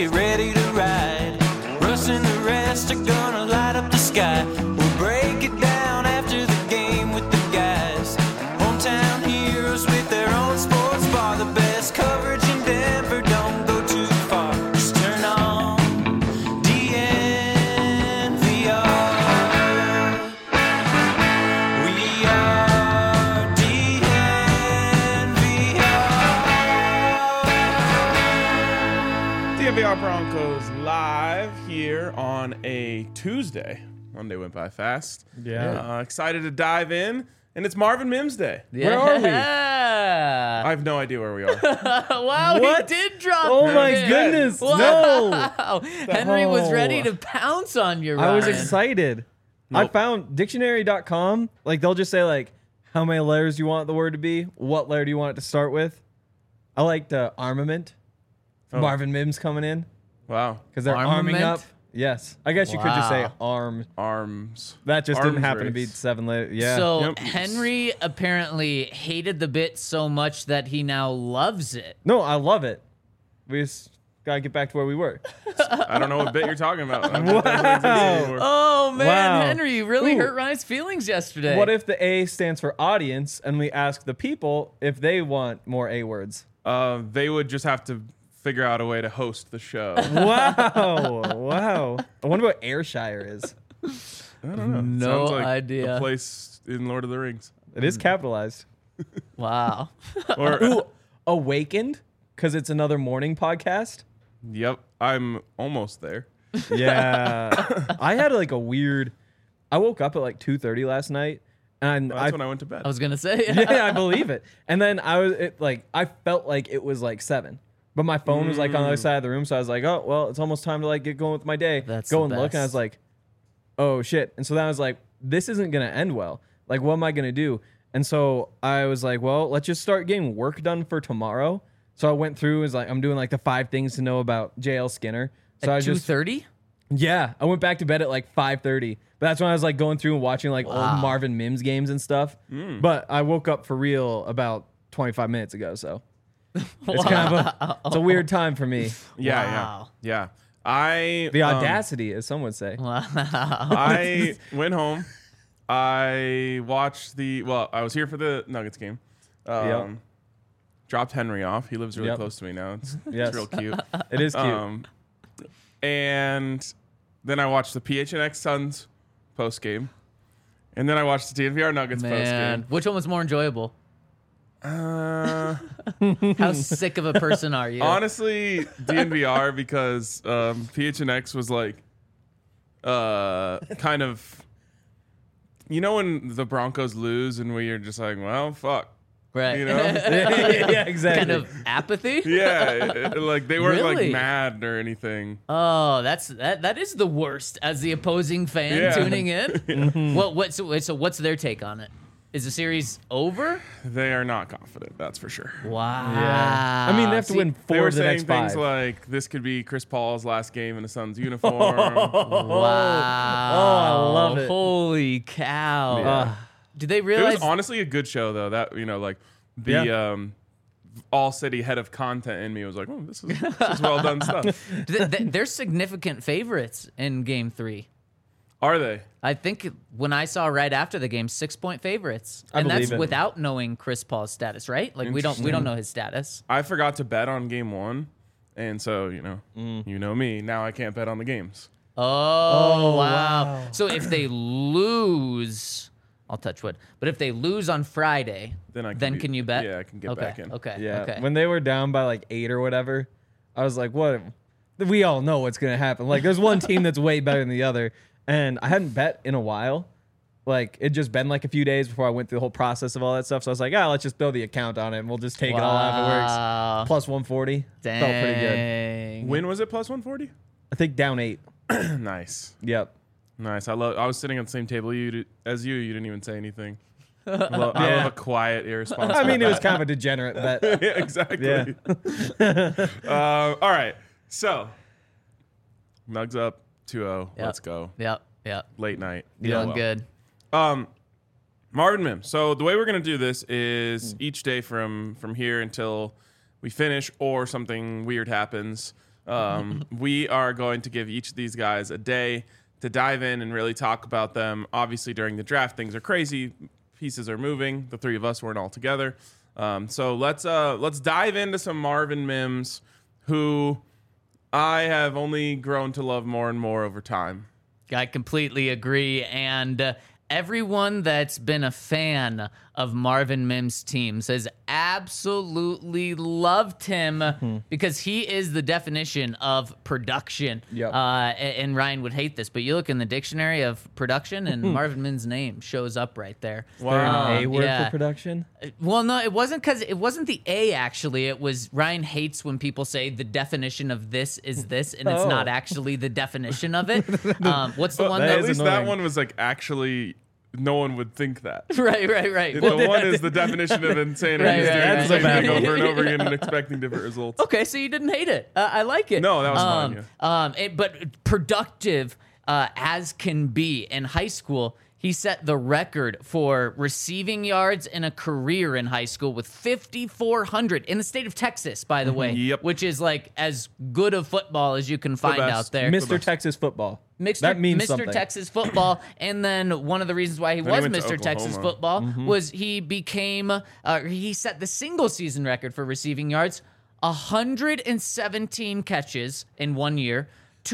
get ready to ride. Russ and the rest are gonna light up the sky. We'll break it down after the game with the guys. Hometown heroes with their own sports bar. The best coverage in Denver, don't go too far. Just turn on DNVR. We are DNVR. DNVR Broncos live here on a Tuesday. Monday went by fast. Yeah. Excited to dive in. And it's Marvin Mims Day. Where are we? I have no idea where we are. Wow, What? he did drop Oh the my pin. goodness. Wow. No. Henry was ready Oh. to pounce on you, I was Ryan. excited. I Nope. found dictionary.com. Like, they'll just say, like, how many letters you want the word to be? What letter do you want it to start with? I liked armament. Oh. Marvin Mims coming in Wow. because they're arming Armament? up. Yes. I guess you could just say Wow. arm. Arms. That just Arms didn't happen to be race. 7 letters. Yeah. So Yep. Henry apparently hated the bit so much that he now loves it. No, I love it. We just got to get back to where we were. I don't know what bit you're talking about. Wow. Oh man, Wow. Henry, you really Ooh. hurt Ryan's feelings yesterday. What if the A stands for audience and we ask the people if they want more A words? They would just have to figure out a way to host the show. Wow. Wow. I wonder what Ayrshire is. I don't know. No Sounds like idea. A place in Lord of the Rings. It is capitalized. Wow. Or Ooh, Awakened, because it's another morning podcast. yep, I'm almost there. Yeah. I had like a weird. I woke up at like 2:30 last night, and That's when I went to bed. I was gonna say. yeah, I believe it. And then I felt like it was like 7. But my phone was like on the other side of the room, so I was like, "Oh, well, it's almost time to like get going with my day." That's Go the and look, and I was best. like, "Oh shit!" And so then I was like, "This isn't gonna end well. Like, what am I gonna do?" And so I was like, "Well, let's just start getting work done for tomorrow." So I went through, was like, I'm doing like the 5 things to know about JL Skinner. So I At just 2:30. yeah, I went back to bed at like 5:30. But that's when I was like going through and watching like old Marvin Mims games and stuff. But I woke up for real about 25 minutes ago, so it's kind of it's a weird time for me. Yeah, Wow. yeah. I The audacity, as some would say. I went home. I watched I was here for the Nuggets game. Yep. Dropped Henry off. He lives really Yep. close to me now. It's Yes. real cute. It is cute. And then I watched the PHNX Suns post game. And then I watched the DNVR Nuggets post Man, game. which one was more enjoyable? How sick of a person are you? Honestly, DNVR because PHNX was like kind of, when the Broncos lose and we are just like, well, fuck, right. you know? Yeah, exactly. kind of apathy. Yeah, like they weren't Really? like mad or anything. Oh, that is the worst as the opposing fan Yeah. tuning in. So what's their take on it? Is the series over? They are not confident, that's for sure. Wow. Yeah. I mean, they have to win They 4 were of the saying next things 5. like this could be Chris Paul's last game in a Suns uniform. Wow. Oh, I love it. Holy cow. Yeah. Did they It realize? was honestly a good show though. That like the Yeah. all city head of content in me was like, oh, this is well done stuff. They're significant favorites in Game 3. Are they? I think when I saw right after the game, 6-point favorites, I and that's believe it. without knowing Chris Paul's status, right? Like we don't know his status. I forgot to bet on game 1, and so you know me. Now I can't bet on the games. Oh, wow. So if they lose, I'll touch wood. But if they lose on Friday, Then can you bet? Yeah, I can get okay. back in. Okay. Yeah. Okay. When they were down by like 8 or whatever, I was like, what? We all know what's going to happen. Like, there's one team that's way better than the other. And I hadn't bet in a while. Like, it'd just been like a few days before I went through the whole process of all that stuff. So I was like, let's just throw the account on it and we'll just take it all out if it Wow. works. Plus 140. Dang. Felt pretty good. When was it plus 140? I think down 8. Nice, Yep. nice. I was sitting on the same table as you. You didn't even say anything. I love a quiet, irresponsible. I mean, it was kind of a degenerate bet. yeah, exactly. Yeah. All right, so Nugs up 2-0. Yep. Let's go. Yep. Late night. Feeling well. good. Marvin Mims. So the way we're gonna do this is each day from here until we finish or something weird happens. We are going to give each of these guys a day to dive in and really talk about them. Obviously, during the draft, things are crazy. Pieces are moving. The three of us weren't all together. So let's dive into some Marvin Mims, who I have only grown to love more and more over time. I completely agree. And everyone that's been a fan of Marvin Mims' teams has absolutely loved him because he is the definition of production. Yep. And Ryan would hate this, but you look in the dictionary of production and Marvin Mims' name shows up right there. Wow. An A word yeah. for production? Well, no, it wasn't because it wasn't the A, actually. It was Ryan hates when people say the definition of this is this, and it's not actually the definition of it. What's the one that At is least annoying. that one was like actually no one would think that. Right. The one is the definition of insanity. Right, He's doing right, the same right. thing over and over again and expecting different results. Okay, so you didn't hate it. I like it. No, that was fine, But productive as can be. In high school, he set the record for receiving yards in a career in high school with 5,400 in the state of Texas, by the way, Yep. which is like as good of football as you can find best. out there. Mr. Texas football. That means Mr. something. Texas football, and then one of the reasons why he Then was he went to Mr. Texas Oklahoma. football was he became he set the single season record for receiving yards, 117 catches in 1 year,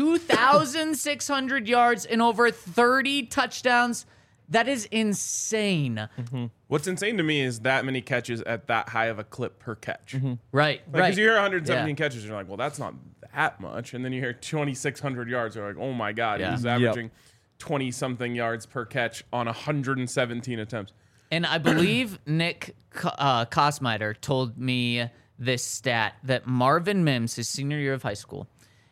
2,600 yards, and over 30 touchdowns. That is insane. What's insane to me is that many catches at that high of a clip per catch. Right, Like, right. because you hear 117 Yeah. catches, you're like, well, that's not that much. And then you hear 2,600 yards, you're like, oh my God, Yeah. he's averaging 20-something yards per catch on 117 attempts. And I believe Nick Kosmider told me this stat that Marvin Mims, his senior year of high school,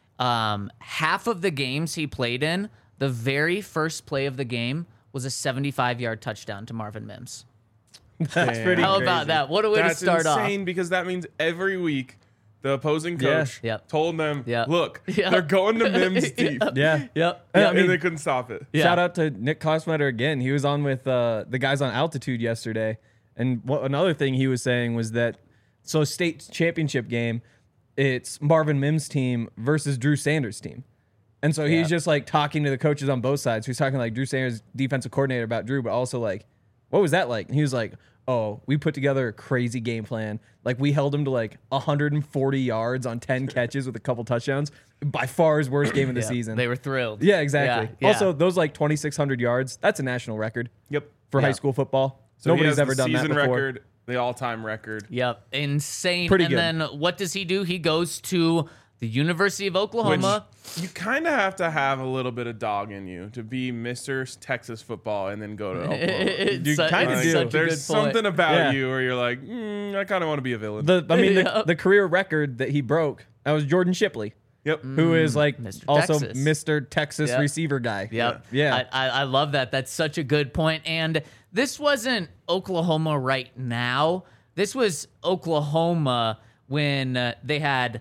half of the games he played in, the very first play of the game was a 75-yard touchdown to Marvin Mims. That's pretty How crazy. about that? What a way That's to start insane because that means every week the opposing coach Yep. told them, Yep. look, Yep. they're going to Mims deep. Yeah. Yep. I And mean, they couldn't stop it. Yeah. shout out to Nick Kosmider again. He was on with the guys on Altitude yesterday. And another thing he was saying was that, so state championship game, it's Marvin Mims' team versus Drew Sanders' team. And so he's just like talking to the coaches on both sides. He's talking like Drew Sanders, defensive coordinator, about Drew, but also like, what was that like? And he was like, oh, we put together a crazy game plan. Like we held him to like 140 yards on 10 catches with a couple touchdowns. By far his worst game of the season. They were thrilled. Yeah, exactly. Yeah. Also, those like 2,600 yards, that's a national record Yep. for Yeah. high school football. So he Nobody's has ever the done that season before. record, the all-time record. Yep. Insane. Pretty and good. then what does he do? He goes to the University of Which Oklahoma. you kind of have to have a little bit of dog in you to be Mr. Texas football and then go to Oklahoma. It's You su- kinda it's do. such a There's good point. something about Yeah. you where you're like, I kind of want to be a villain. The career record that he broke, that was Jordan Shipley, Yep. who is like Mr. also Texas. Mr. Texas Yep. receiver guy. Yep. Yeah. I love that. That's such a good point. And this wasn't Oklahoma right now. This was Oklahoma when they had,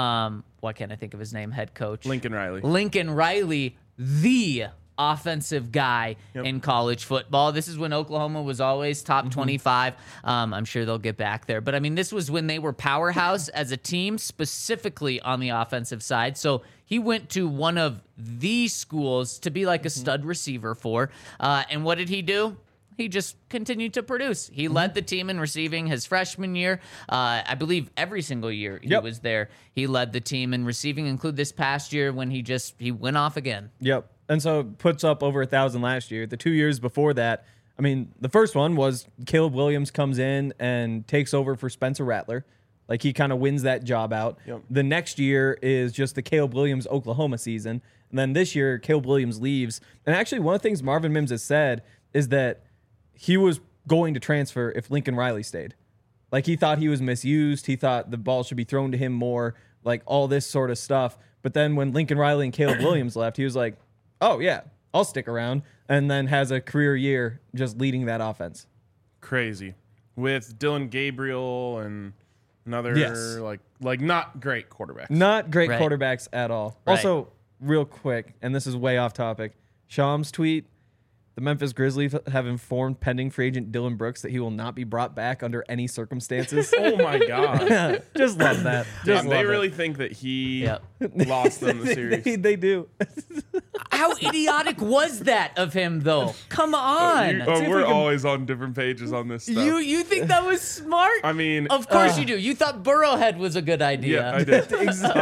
why can't I think of his name? Head coach. Lincoln Riley. Lincoln Riley, the offensive guy in college football. This is when Oklahoma was always top 25. I'm sure they'll get back there. But I mean, this was when they were powerhouse as a team, specifically on the offensive side. So he went to one of the schools to be like a stud receiver for. And what did he do? He just continued to produce. He led the team in receiving his freshman year. I believe every single year he was there. He led the team in receiving, include this past year when he went off again. Yep. And so puts up over 1,000 last year. The 2 years before that, I mean, the first one was Caleb Williams comes in and takes over for Spencer Rattler. Like he kind of wins that job out. Yep. The next year is just the Caleb Williams Oklahoma season. And then this year, Caleb Williams leaves. And actually, one of the things Marvin Mims has said is that he was going to transfer if Lincoln Riley stayed. Like he thought he was misused. He thought the ball should be thrown to him more, like all this sort of stuff. But then when Lincoln Riley and Caleb Williams left, he was like, oh yeah, I'll stick around. And then has a career year just leading that offense. Crazy. With Dylan Gabriel and another Yes. like not great quarterbacks. Not great Right. quarterbacks at all. Right. Also, real quick, and this is way off topic, Sham's tweet, The Memphis Grizzlies have informed pending free agent Dylan Brooks that he will not be brought back under any circumstances. Oh my god. Just love that. Just They love really it. think that he Yep. lost them the series. They do. How idiotic was that of him, though? Come on. We're always on different pages on this stuff. You think that was smart? I mean, of course you do. You thought Burrowhead was a good idea. yeah, I did.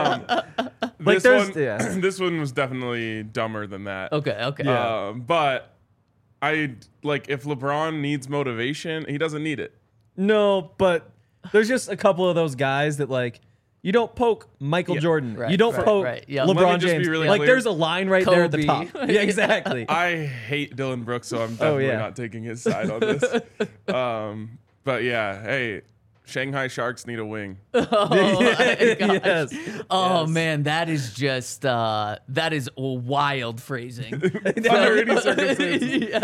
Like, This one was definitely dumber than that. Okay. But I like if LeBron needs motivation, he doesn't need it. No, but there's just a couple of those guys that like you don't poke Michael Jordan. right, you don't right, poke right, yeah. Let me LeBron just be James. really Like clear. there's a line right there at the Kobe. top. Yeah, exactly. I hate Dylan Brooks, so I'm definitely yeah. not taking his side on this. But yeah, hey, Shanghai Sharks need a wing. Yes. Oh man, that is just that is wild phrasing. Under any circumstances.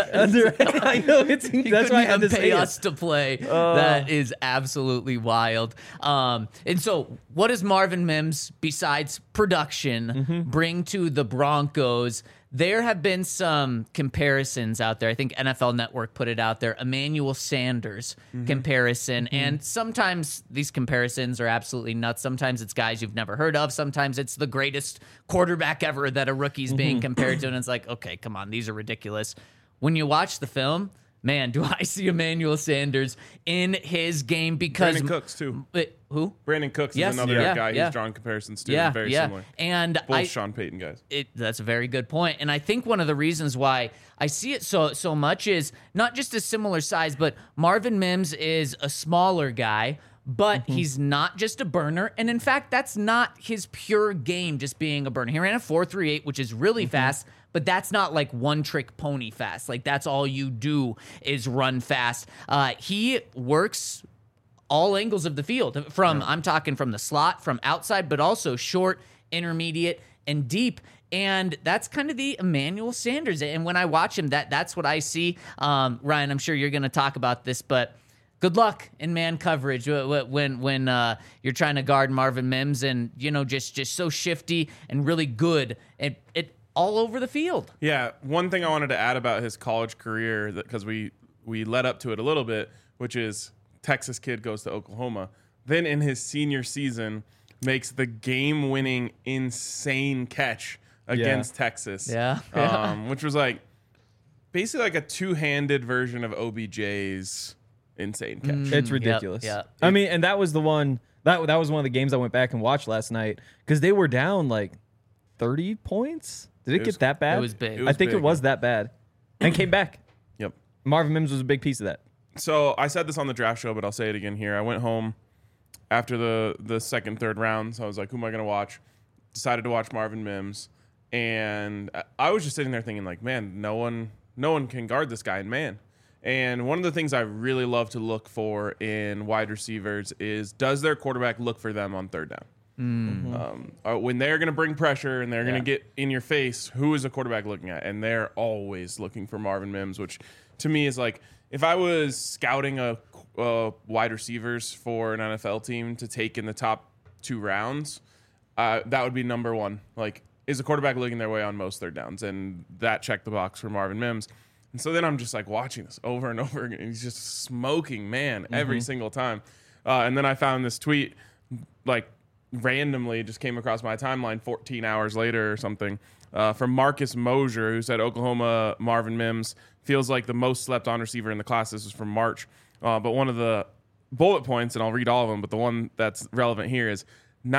I know it's He that's why I had couldn't even to pay say us it. to play. That is absolutely wild. And so, what does Marvin Mims, besides production, bring to the Broncos? There have been some comparisons out there. I think NFL Network put it out there. Emmanuel Sanders comparison. And sometimes these comparisons are absolutely nuts. Sometimes it's guys you've never heard of. Sometimes it's the greatest quarterback ever that a rookie's being compared to. And it's like, okay, come on, these are ridiculous. When you watch the film, man, do I see Emmanuel Sanders in his game because Brandon Cooks too. Who? Brandon Cooks Yes, is another yeah, guy yeah. he's drawn comparisons to. Yeah, Very yeah. similar. And Both Sean Payton guys. that's a very good point. And I think one of the reasons why I see it so much is not just a similar size, but Marvin Mims is a smaller guy, but he's not just a burner. And in fact, that's not his pure game, just being a burner. He ran a 4.38, which is really fast, but that's not like one trick pony fast. Like that's all you do is run fast. He works all angles of the field I'm talking from the slot, from outside, but also short, intermediate, and deep. And that's kind of the Emmanuel Sanders. And when I watch him, that's what I see. Ryan, I'm sure you're going to talk about this, but good luck in man coverage when you're trying to guard Marvin Mims and, just so shifty and really good at all over the field. Yeah, one thing I wanted to add about his college career, because we led up to it a little bit, which is Texas kid goes to Oklahoma. Then in his senior season, makes the game-winning insane catch against Texas. Yeah. Which was like basically like a two-handed version of OBJ's insane catch. It's ridiculous. yep. I mean, and that was the one that was one of the games I went back and watched last night because they were down like 30 points. Did it was- get that bad? it was big. It I was think big. it was that bad, and came back. Yep. Marvin Mims was a big piece of that. So I said this on the draft show, but I'll say it again here. I went home after the second, third rounds. I was like, who am I going to watch? Decided to watch Marvin Mims. And I was just sitting there thinking, like, man, no one can guard this guy in man. And one of the things I really love to look for in wide receivers is, does their quarterback look for them on third down? When they're going to bring pressure and they're going to get in your face, who is the quarterback looking at? And they're always looking for Marvin Mims, which to me is like, if I was scouting a wide receivers for an NFL team to take in the top 2 rounds, that would be number one. Like, is the quarterback looking their way on most third downs? And that checked the box for Marvin Mims. And so then I'm just like watching this over and over again. He's just smoking, man, every single time. And then I found this tweet, like randomly just came across my timeline 14 hours later or something, from Marcus Mosier, who said Oklahoma Marvin Mims feels like the most slept on receiver in the class. This was from March. But one of the bullet points, and I'll read all of them, but the one that's relevant here is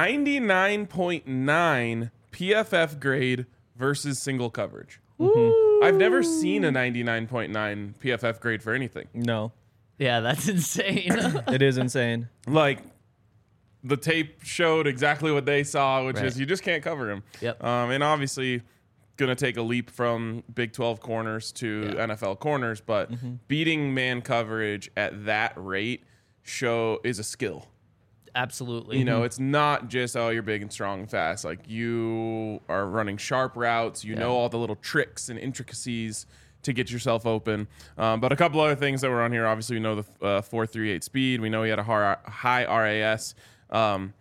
99.9 PFF grade versus single coverage. I've never seen a 99.9 PFF grade for anything. No, Yeah, that's insane. it is insane. Like, the tape showed exactly what they saw, which Right. is you just can't cover him. Yep. And obviously, going to take a leap from Big 12 corners to NFL corners, but beating man coverage at that rate is a skill. Absolutely. You know, it's not just, oh, you're big and strong and fast. Like, you are running sharp routes. You know all the little tricks and intricacies to get yourself open. But a couple other things that were on here. Obviously, we know the 4.38 speed. We know he had a high RAS.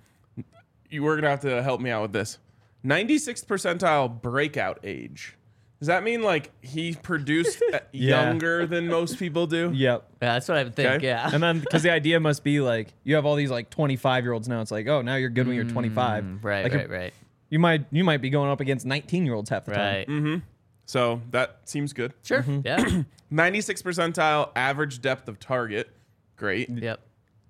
You were going to have to help me out with this. 96th percentile breakout age. Does that mean like he produced younger than most people do? Yep. Yeah, that's what I would think. Okay. Yeah. And then because the idea must be like you have all these like 25-year-olds now. It's like, oh, now you're good when you're 25. Right, Like, right. You might be going up against 19-year-olds half the time. Right. So that seems good. Sure. Yeah. 96th percentile average depth of target. Great. Yep.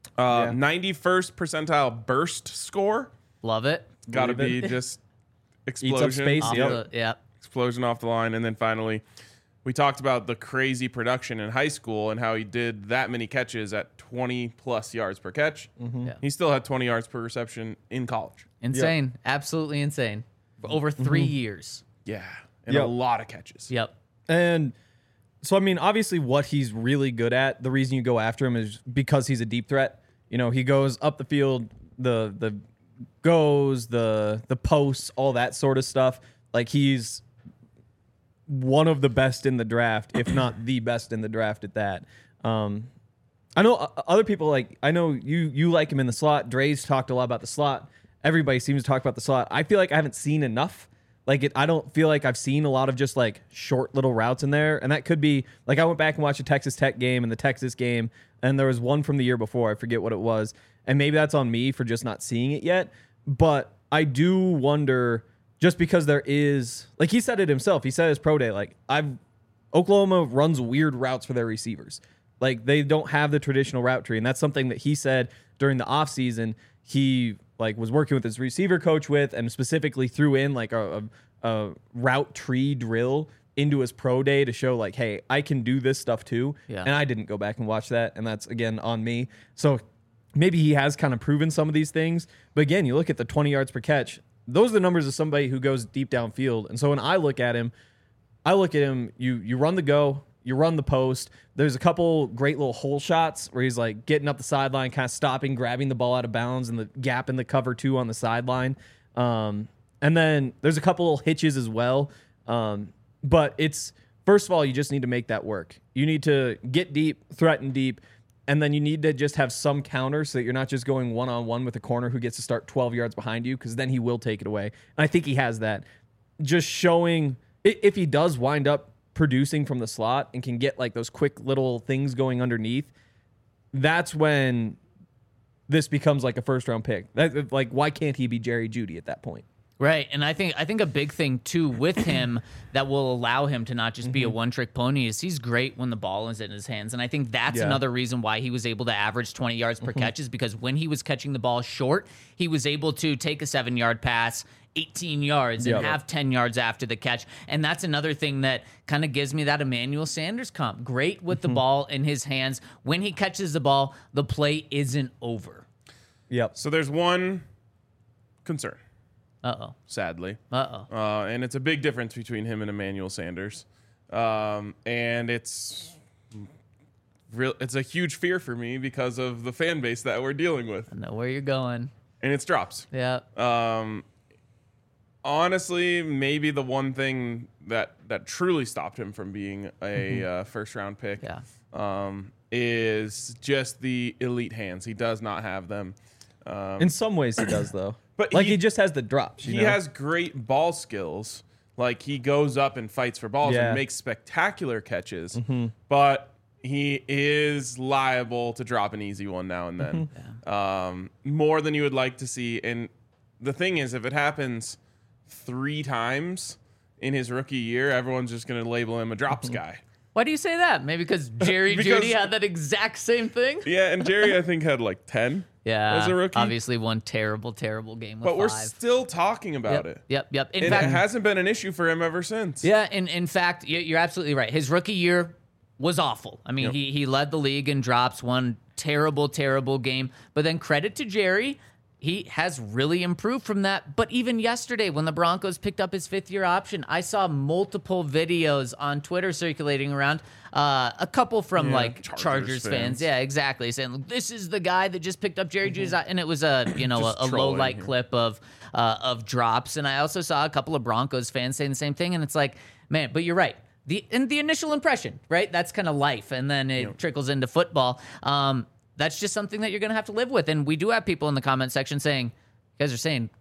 91st percentile burst score. Love it. Got to Believe be it. just Eats explosion. up space. Off Yep. Yep. Explosion off the line. And then finally, we talked about the crazy production in high school and how he did that many catches at 20 plus yards per catch. Yeah. He still had 20 yards per reception in college. Insane. Absolutely insane. For over 3 years. Yeah. And Yep. a lot of catches. Yep. And so, I mean, obviously, what he's really good at, the reason you go after him is because he's a deep threat. You know, he goes up the field, the goes, the posts, all that sort of stuff. Like, he's one of the best in the draft, if not the best in the draft at that. I know other people like. I know you like him in the slot. Dre's talked a lot about the slot. Everybody seems to talk about the slot. I feel like I haven't seen enough. Like I don't feel like I've seen a lot of just like short little routes in there, and that could be like I went back and watched a Texas Tech game and the Texas game, and there was one from the year before. I forget what it was, and maybe that's on me for just not seeing it yet. But I do wonder, just because there is, like he said it himself. He said his pro day, like Oklahoma runs weird routes for their receivers. Like they don't have the traditional route tree, and that's something that he said during the offseason. He like was working with his receiver coach with, and specifically threw in like a route tree drill into his pro day to show like, hey, I can do this stuff too. Yeah. And I didn't go back and watch that, and that's again on me. So maybe he has kind of proven some of these things, but again, you look at the 20 yards per catch. Those are the numbers of somebody who goes deep downfield. And so when I look at him, you run the go, you run the post. There's a couple great little hole shots where he's like getting up the sideline, kind of stopping, grabbing the ball out of bounds, and the gap in the cover two on the sideline. And then there's a couple little hitches as well. But it's, first of all, you just need to make that work. You need to get deep, threaten deep, and then you need to just have some counter so that you're not just going one-on-one with a corner who gets to start 12 yards behind you, because then he will take it away. And I think he has that. Just showing, if he does wind up producing from the slot and can get like those quick little things going underneath, that's when this becomes like a first-round pick. Like, why can't he be Jerry Jeudy at that point? Right, and I think a big thing too with him that will allow him to not just be a one-trick pony is he's great when the ball is in his hands, and I think that's another reason why he was able to average 20 yards per catch is because when he was catching the ball short, he was able to take a 7-yard pass 18 yards and have 10 yards after the catch, and that's another thing that kind of gives me that Emmanuel Sanders comp. Great with the ball in his hands. When he catches the ball, the play isn't over. Yep. So there's one concern. Uh-oh. Sadly. Uh-oh. And it's a big difference between him and Emmanuel Sanders. And it's a huge fear for me because of the fan base that we're dealing with. I know where you're going. And it's drops. Yeah. Honestly, maybe the one thing that truly stopped him from being a first round pick is just the elite hands. He does not have them. In some ways he does, though. But like he just has the drops. He has great ball skills. Like he goes up and fights for balls and makes spectacular catches. But he is liable to drop an easy one now and then. More than you would like to see. And the thing is, if it happens 3 times in his rookie year, everyone's just going to label him a drops guy. Why do you say that? Maybe because Jerry Jeudy had that exact same thing? Yeah, and Jerry, I think, had like 10 as a rookie. Obviously one terrible game with but 5. we're still talking about it. Yep. In And fact, it hasn't been an issue for him ever since. yeah, in fact, you're absolutely right. His rookie year was awful. I mean, he led the league in drops, one terrible game. But then credit to Jerry, he has really improved from that. But even yesterday, when the Broncos picked up his 5th-year option, I saw multiple videos on Twitter circulating around. A couple from like Chargers fans. Yeah, exactly. Saying, look, this is the guy that just picked up Jerry Jeudy's, and it was a low light clip of drops. And I also saw a couple of Broncos fans saying the same thing. And it's like, man, but you're right. The initial impression, right? That's kind of life, and then it trickles into football. That's just something that you're going to have to live with. And we do have people in the comment section saying, you guys are saying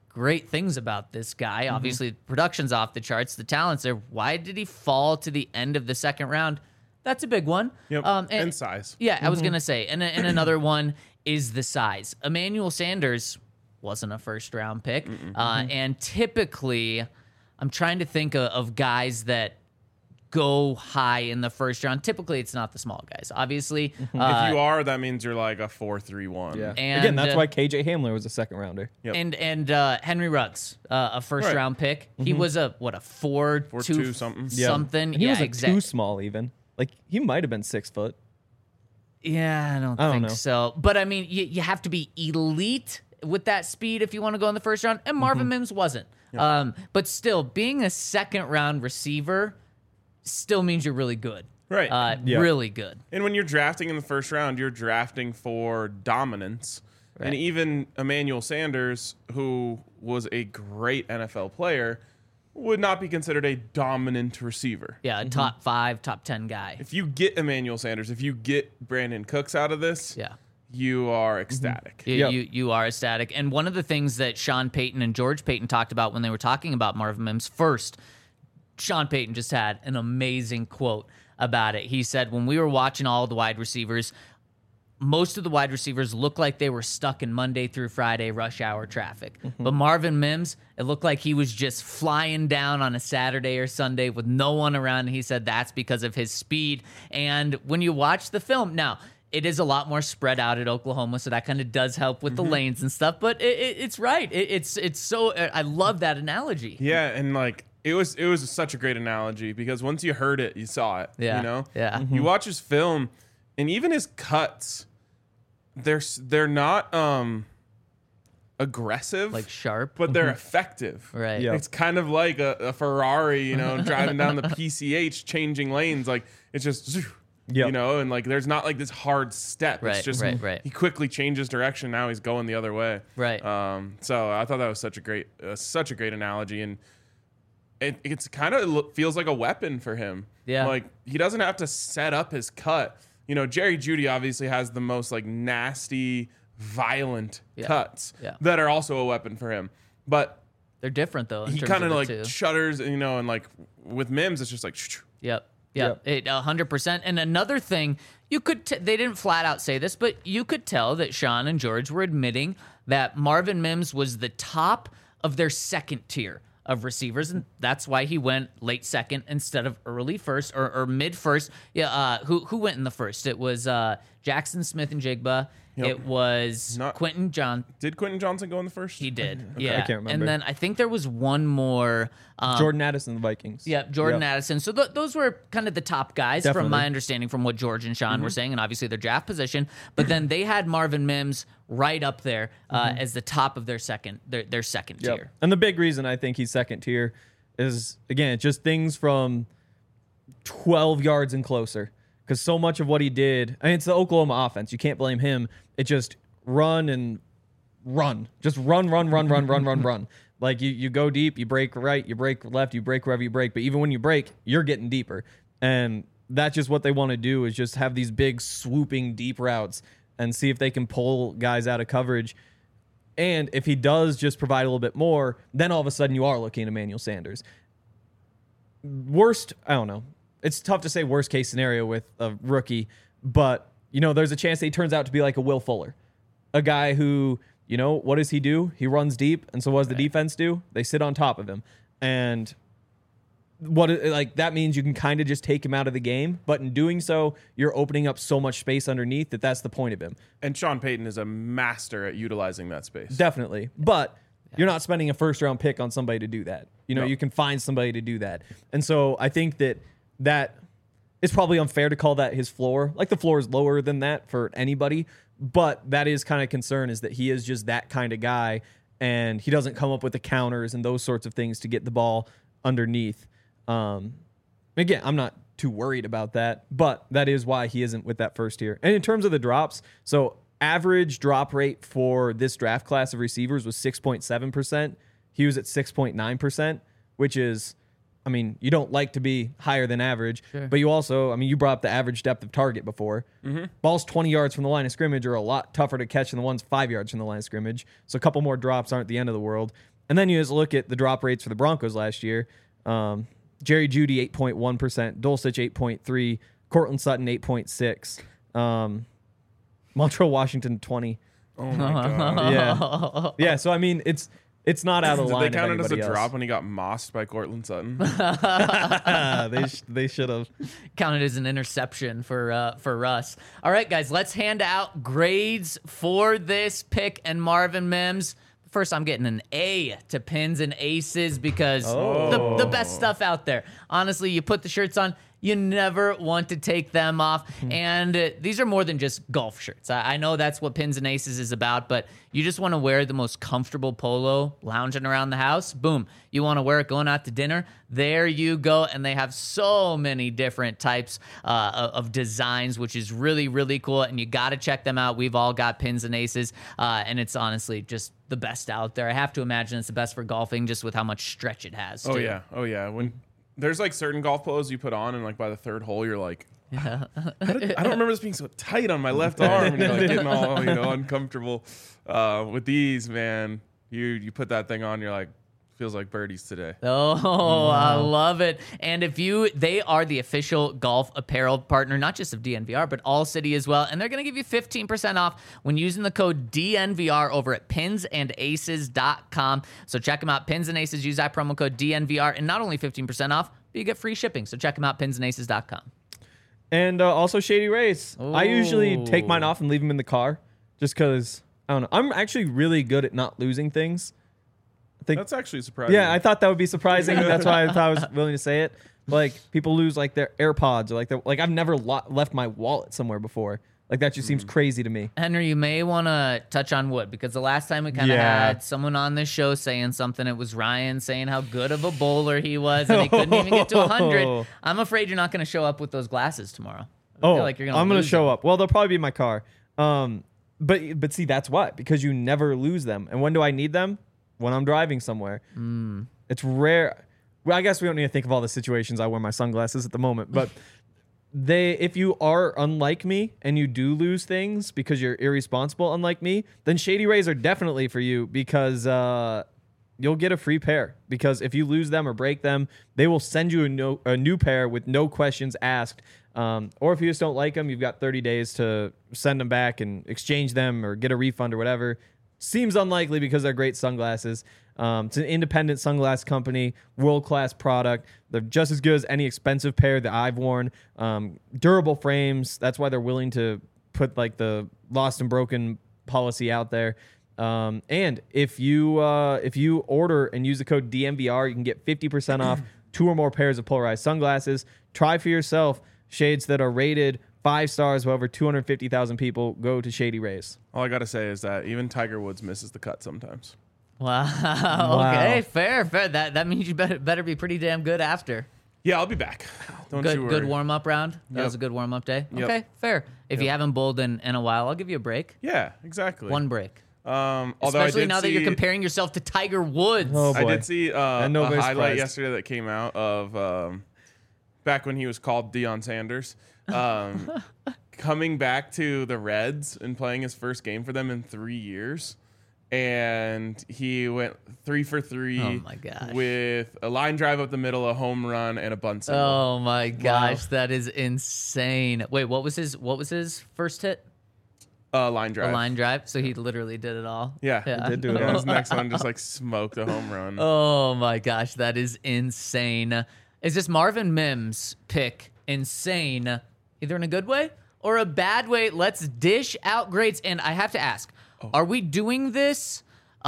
great things about this guy. Obviously, production's off the charts. The talent's there. Why did he fall to the end of the second round? That's a big one. Yep. And size. Yeah, I was going to say. And another one is the size. Emmanuel Sanders wasn't a first-round pick. And typically, I'm trying to think of guys that go high in the first round. Typically, it's not the small guys. Obviously. If you are, that means you're like a 4-3-1. Yeah. And, Again, that's why KJ Hamler was a second rounder. Yep. And Henry Ruggs, a first round pick. He was a 4.2 something. something. And he was exactly. too small even. Like he might have been 6 foot. Yeah, I don't think know. so. But I mean, you have to be elite with that speed if you want to go in the first round. And Marvin Mims wasn't. But still, being a second round receiver still means you're really good. Right. Really good. And when you're drafting in the first round, you're drafting for dominance. Right. And even Emmanuel Sanders, who was a great NFL player, would not be considered a dominant receiver. Yeah, a top 5, top 10 guy. If you get Emmanuel Sanders, if you get Brandon Cooks out of this, Yeah. you are ecstatic. You are ecstatic. And one of the things that Sean Payton and George Payton talked about when they were talking about Marvin Mims first, Sean Payton just had an amazing quote about it. He said, when we were watching all the wide receivers, most of the wide receivers looked like they were stuck in Monday through Friday rush hour traffic. But Marvin Mims, it looked like he was just flying down on a Saturday or Sunday with no one around. And he said that's because of his speed. And when you watch the film, now, it is a lot more spread out at Oklahoma, so that kind of does help with the lanes and stuff. But it's right. It's so I love that analogy. Yeah, and like it was such a great analogy because once you heard it, you saw it. Yeah. You know? Yeah. You watch his film and even his cuts, they're not aggressive. Like sharp. but they're effective. Right. Yeah. It's kind of like a Ferrari, you know, driving down the PCH, changing lanes. Like it's just, you know, and like there's not like this hard step. Right, It's just right. he quickly changes direction. Now he's going the other way. Right. So I thought that was such a great analogy, and it's kind of feels like a weapon for him. Yeah. Like he doesn't have to set up his cut. You know, Jerry Jeudy obviously has the most like nasty, violent cuts that are also a weapon for him. But They're different though. he kind of like shudders, you know, and like with Mims, it's just like. Yep. 100%. And another thing, you could they didn't flat out say this, but you could tell that Sean and George were admitting that Marvin Mims was the top of their second tier of receivers, and that's why he went late second instead of early first or mid first. Yeah, who went in the first? It was Jackson Smith and Jigba. Yep. It was Quentin John. Did Quentin Johnson go in the first? He did. Okay. Yeah, I can't remember. And then I think there was one more. Jordan Addison, the Vikings. Yep, Jordan Addison. So those were kind of the top guys Definitely. from my understanding from what George and Sean were saying, and obviously their draft position. But then they had Marvin Mims right up there as the top of their second tier. And the big reason I think he's second tier is, again, it's just things from 12 yards and closer. Because so much of what he did, I mean, it's the Oklahoma offense. You can't blame him. It just run and run. Just run. Like you go deep, you break right, you break left, you break wherever you break. But even when you break, you're getting deeper. And that's just what they want to do, is just have these big swooping deep routes and see if they can pull guys out of coverage. And if he does just provide a little bit more, then all of a sudden you are looking at Emmanuel Sanders. Worst, I don't know. It's tough to say worst case scenario with a rookie, but, you know, there's a chance that he turns out to be like a Will Fuller, a guy who, you know, what does he do? He runs deep, and so what does the defense do? They sit on top of him. And that means you can kind of just take him out of the game, but in doing so, you're opening up so much space underneath that's the point of him. And Sean Payton is a master at utilizing that space. Definitely. But you're not spending a first-round pick on somebody to do that. You know, you can find somebody to do that. And so I think that it's probably unfair to call that his floor. Like, the floor is lower than that for anybody, but that is kind of concern, is that he is just that kind of guy, and he doesn't come up with the counters and those sorts of things to get the ball underneath. Again, I'm not too worried about that, but that is why he isn't with that first tier. And in terms of the drops, so average drop rate for this draft class of receivers was 6.7%. He was at 6.9%, which is, I mean, you don't like to be higher than average, but you also, I mean, you brought up the average depth of target before. Balls 20 yards from the line of scrimmage are a lot tougher to catch than the ones 5 yards from the line of scrimmage. So a couple more drops aren't the end of the world. And then you just look at the drop rates for the Broncos last year. Jerry Jeudy 8.1%, Dulcich 8.3%, Cortland Sutton 8.6%, Montreal Washington 20%. Oh my god. Yeah. So I mean, it's not out of Did line. they count it as a else. drop when he got mossed by Cortland Sutton? They should have. Counted as an interception for Russ. All right, guys, let's hand out grades for this pick and Marvin Mims. First, I'm getting an A to Pins and Aces because the best stuff out there. Honestly, you put the shirts on, you never want to take them off. And these are more than just golf shirts. I know that's what Pins and Aces is about, but you just want to wear the most comfortable polo lounging around the house. Boom. You want to wear it going out to dinner. There you go. And they have so many different types of designs, which is really, really cool. And you got to check them out. We've all got Pins and Aces. And it's honestly just the best out there. I have to imagine it's the best for golfing just with how much stretch it has. Oh too. yeah. When there's like certain golf polos you put on, and like by the third hole, you're like, I don't remember this being so tight on my left arm, and you're like getting all uncomfortable. With these, man, you put that thing on, you're like, feels like birdies today. Oh, I love it. And they are the official golf apparel partner, not just of DNVR, but All City as well. And they're going to give you 15% off when using the code DNVR over at pinsandaces.com. So check them out. Pins and Aces, use that promo code DNVR, and not only 15% off, but you get free shipping. So check them out, pinsandaces.com. And also Shady Rays. I usually take mine off and leave them in the car just because, I don't know. I'm actually really good at not losing things. That's actually surprising. Yeah, I thought that would be surprising. That's why I thought I was willing to say it. Like, people lose like their AirPods or like I've never left my wallet somewhere before. Like, that just seems crazy to me. Henry, you may want to touch on wood because the last time we kind of had someone on this show saying something, it was Ryan saying how good of a bowler he was and he couldn't even get to 100. I'm afraid you're not going to show up with those glasses tomorrow. I feel like you're gonna I'm going to lose show them. up. Well, they'll probably be in my car. But see, that's why. Because you never lose them. And when do I need them? When I'm driving somewhere. It's rare. Well, I guess we don't need to think of all the situations I wear my sunglasses at the moment. But if you are unlike me and you do lose things because you're irresponsible unlike me, then Shady Rays are definitely for you because you'll get a free pair. Because if you lose them or break them, they will send you a new pair with no questions asked. Or if you just don't like them, you've got 30 days to send them back and exchange them or get a refund or whatever. Seems unlikely because they're great sunglasses. It's an independent sunglass company, world-class product. They're just as good as any expensive pair that I've worn. Durable frames. That's why they're willing to put like the lost and broken policy out there. And if you order and use the code DNVR, you can get 50% off 2 or more pairs of polarized sunglasses. Try for yourself shades that are rated 5 stars. Over 250,000 people go to Shady Rays. All I gotta say is that even Tiger Woods misses the cut sometimes. Wow. Okay, fair. That means you better be pretty damn good after. Yeah, I'll be back. Don't you worry. Good warm up round. That Yep. was a good warm up day. Yep. Okay, fair. If you haven't bowled in a while, I'll give you a break. Yeah, exactly. One break. Although I Especially did now that you're see- comparing yourself to Tiger Woods. Oh, I boy. did see a nobody's highlight surprised. yesterday that came out of back when he was called Deion Sanders, coming back to the Reds and playing his first game for them in 3 years. And he went 3 for 3 Oh, my gosh. with a line drive up the middle, a home run, and a bunt single. Oh my gosh, that is insane. Wait, what was his first hit? Line drive. A line drive. So he literally did it all. Yeah. He did do it Yeah, all. his next one just like smoked a home run. Oh my gosh, that is insane. Is this Marvin Mims pick insane, either in a good way or a bad way? Let's dish out grades. And I have to ask, are we doing this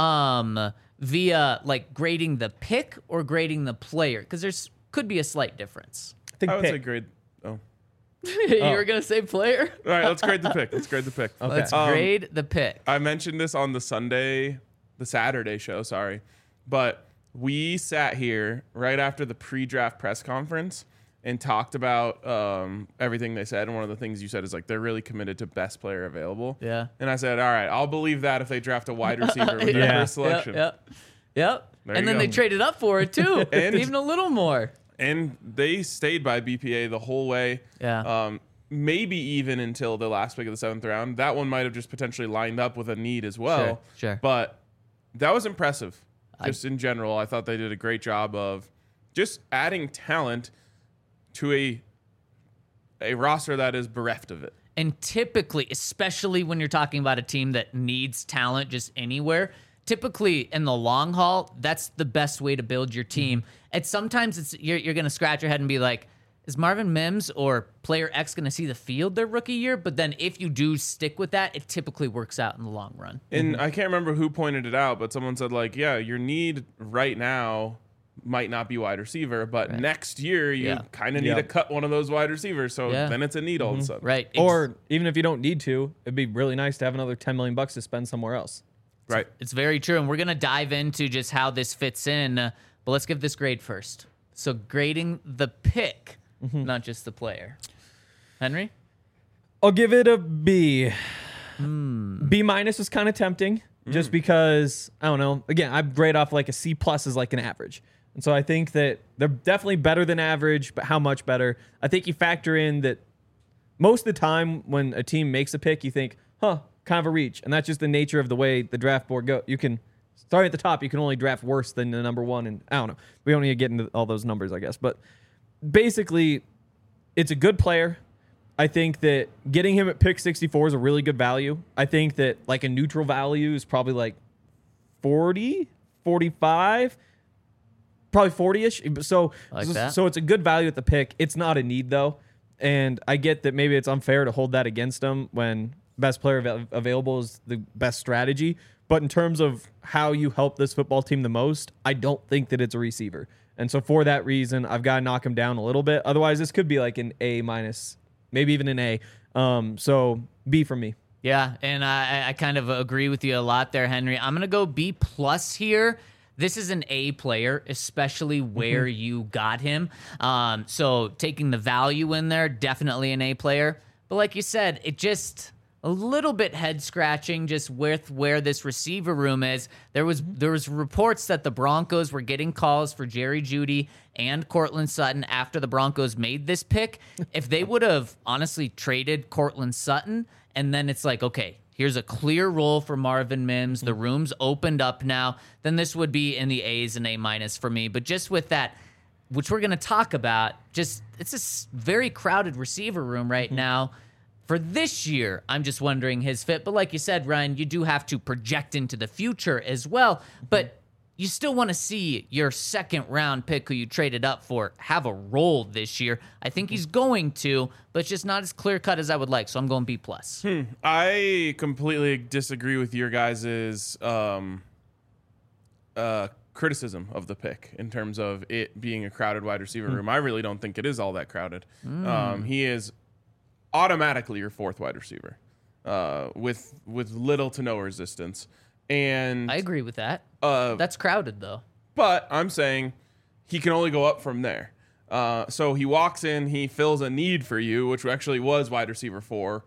via like grading the pick or grading the player? Because there's could be a slight difference. I think I would pick. say grade. Oh. You were going to say player? All right, let's grade the pick. Let's grade the pick. Okay. Let's grade the pick. I mentioned this on the Saturday show, sorry. But we sat here right after the pre-draft press conference and talked about everything they said. And one of the things you said is like, they're really committed to best player available. Yeah. And I said, all right, I'll believe that if they draft a wide receiver with their Yeah. first selection. Yep. There And you then go. they traded up for it too. And- even a little more. And they stayed by BPA the whole way. Yeah. Maybe even until the last pick of the 7th round. That one might have just potentially lined up with a need as well. Sure. But that was impressive. just in general, I thought they did a great job of just adding talent to a roster that is bereft of it. And typically, especially when you're talking about a team that needs talent just anywhere, typically in the long haul, that's the best way to build your team. And sometimes you're going to scratch your head and be like, is Marvin Mims or player X going to see the field their rookie year? But then if you do stick with that, it typically works out in the long run. And I can't remember who pointed it out, but someone said, like, yeah, your need right now might not be wide receiver, but next year you kind of need to cut one of those wide receivers. So then it's a need all of a sudden. Right. Or even if you don't need to, it'd be really nice to have another $10 million to spend somewhere else. Right. It's very true. And we're going to dive into just how this fits in. But let's give this grade first. So grading the pick, not just the player. Henry? I'll give it a B. B minus is kind of tempting just because, I don't know. Again, I grade off like a C plus is like an average. And so I think that they're definitely better than average, but how much better? I think you factor in that most of the time when a team makes a pick, you think, kind of a reach. And that's just the nature of the way the draft board goes. You can, starting at the top, you can only draft worse than the number one. And I don't know. We don't need to get into all those numbers, I guess. But basically, it's a good player. I think that getting him at pick 64 is a really good value. I think that like a neutral value is probably like 40, 45, probably 40-ish. So, so it's a good value at the pick. It's not a need, though. And I get that maybe it's unfair to hold that against him when best player available is the best strategy. But in terms of how you help this football team the most, I don't think that it's a receiver. And so for that reason, I've got to knock him down a little bit. Otherwise, this could be like an A minus, maybe even an A. So B for me. Yeah, and I kind of agree with you a lot there, Henry. I'm going to go B plus here. This is an A player, especially where you got him. So taking the value in there, definitely an A player. But like you said, it just a little bit head scratching just with where this receiver room is. There was reports that the Broncos were getting calls for Jerry Jeudy and Courtland Sutton after the Broncos made this pick. If they would have honestly traded Courtland Sutton, and then it's like, okay, here's a clear role for Marvin Mims. The room's opened up now. Then this would be in the A's and A minus for me. But just with that, which we're going to talk about, just it's a very crowded receiver room right now. For this year, I'm just wondering his fit. But like you said, Ryan, you do have to project into the future as well. But you still want to see your second round pick who you traded up for have a role this year. I think he's going to, but it's just not as clear cut as I would like. So I'm going B plus. I completely disagree with your guys' criticism of the pick in terms of it being a crowded wide receiver room. I really don't think it is all that crowded. He is automatically your fourth wide receiver with little to no resistance. And I agree with that. That's crowded, though. But I'm saying he can only go up from there. So he walks in, he fills a need for you, which actually was wide receiver 4,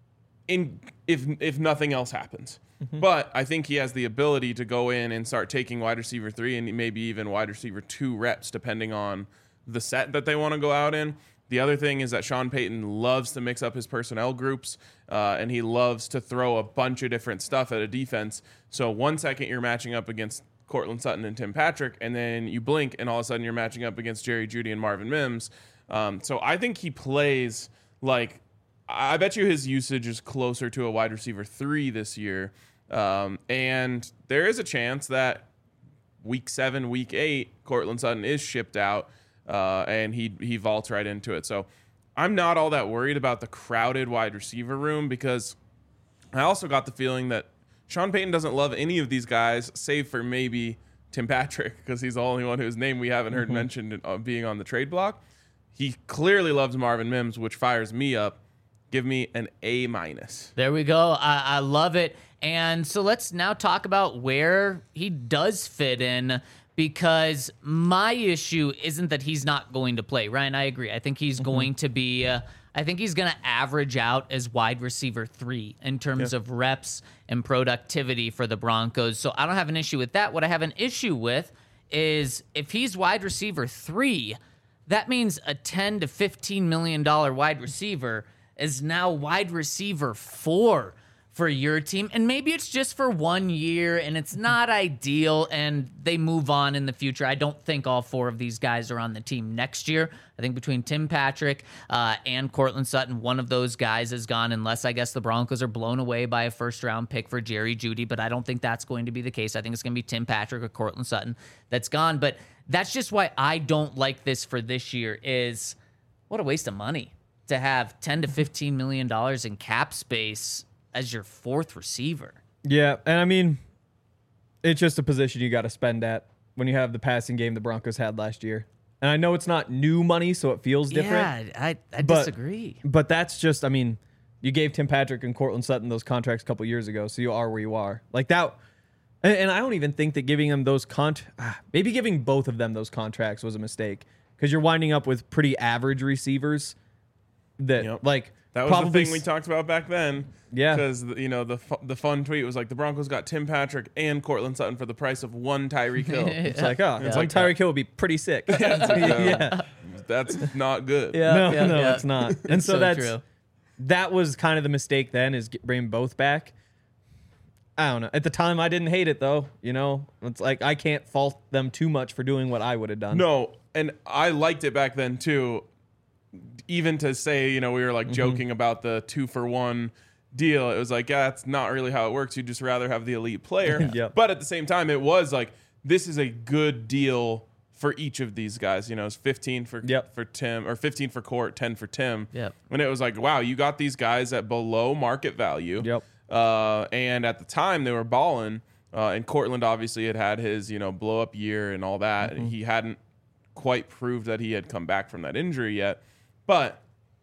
if nothing else happens. But I think he has the ability to go in and start taking wide receiver 3 and maybe even wide receiver 2 reps, depending on the set that they want to go out in. The other thing is that Sean Payton loves to mix up his personnel groups, and he loves to throw a bunch of different stuff at a defense. So 1 second you're matching up against Courtland Sutton and Tim Patrick, and then you blink, and all of a sudden you're matching up against Jerry Jeudy and Marvin Mims. So I think he plays like – I bet you his usage is closer to a wide receiver 3 this year. And there is a chance that week 7, week 8, Courtland Sutton is shipped out, and he vaults right into it. So I'm not all that worried about the crowded wide receiver room because I also got the feeling that Sean Payton doesn't love any of these guys, save for maybe Tim Patrick, because he's the only one whose name we haven't heard mentioned being on the trade block. He clearly loves Marvin Mims, which fires me up. Give me an A minus. There we go. I love it. And so let's now talk about where he does fit in, because my issue isn't that he's not going to play. Ryan, I agree. I think he's going to be I think he's going to average out as wide receiver 3 in terms of reps and productivity for the Broncos. So I don't have an issue with that. What I have an issue with is if he's wide receiver 3, that means a $10 to $15 million wide receiver is now wide receiver 4 for your team. And maybe it's just for 1 year and it's not ideal and they move on in the future. I don't think all 4 of these guys are on the team next year. I think between Tim Patrick and Courtland Sutton, one of those guys is gone, unless I guess the Broncos are blown away by a first-round pick for Jerry Jeudy, but I don't think that's going to be the case. I think it's going to be Tim Patrick or Courtland Sutton that's gone. But that's just why I don't like this for this year is what a waste of money to have $10 to $15 million in cap space as your 4th receiver. Yeah, and I mean, it's just a position you got to spend at when you have the passing game the Broncos had last year. And I know it's not new money, so it feels different. Yeah, I disagree. But that's just, I mean, you gave Tim Patrick and Courtland Sutton those contracts a couple years ago, so you are where you are. Like that, and I don't even think that giving them those maybe giving both of them those contracts was a mistake because you're winding up with pretty average receivers that like. That was probably the thing we talked about back then. Yeah. Because, the fun tweet was like, the Broncos got Tim Patrick and Courtland Sutton for the price of one Tyreek Hill. It's like, one Tyreek Hill would be pretty sick. That's not good. No, it's not. And so that's true. That was kind of the mistake then is bringing both back. I don't know. At the time, I didn't hate it, though. It's like I can't fault them too much for doing what I would have done. No, and I liked it back then, too. Even to say, we were like joking about the 2-for-1 deal. It was like, yeah, that's not really how it works. You'd just rather have the elite player. Yep. But at the same time, it was like, this is a good deal for each of these guys. It's 15 for Tim, or 15 for Court, 10 for Tim. Yep. And it was like, wow, you got these guys at below market value. Yep. And at the time, they were balling. And Courtland obviously had his, blow up year and all that. Mm-hmm. He hadn't quite proved that he had come back from that injury yet. But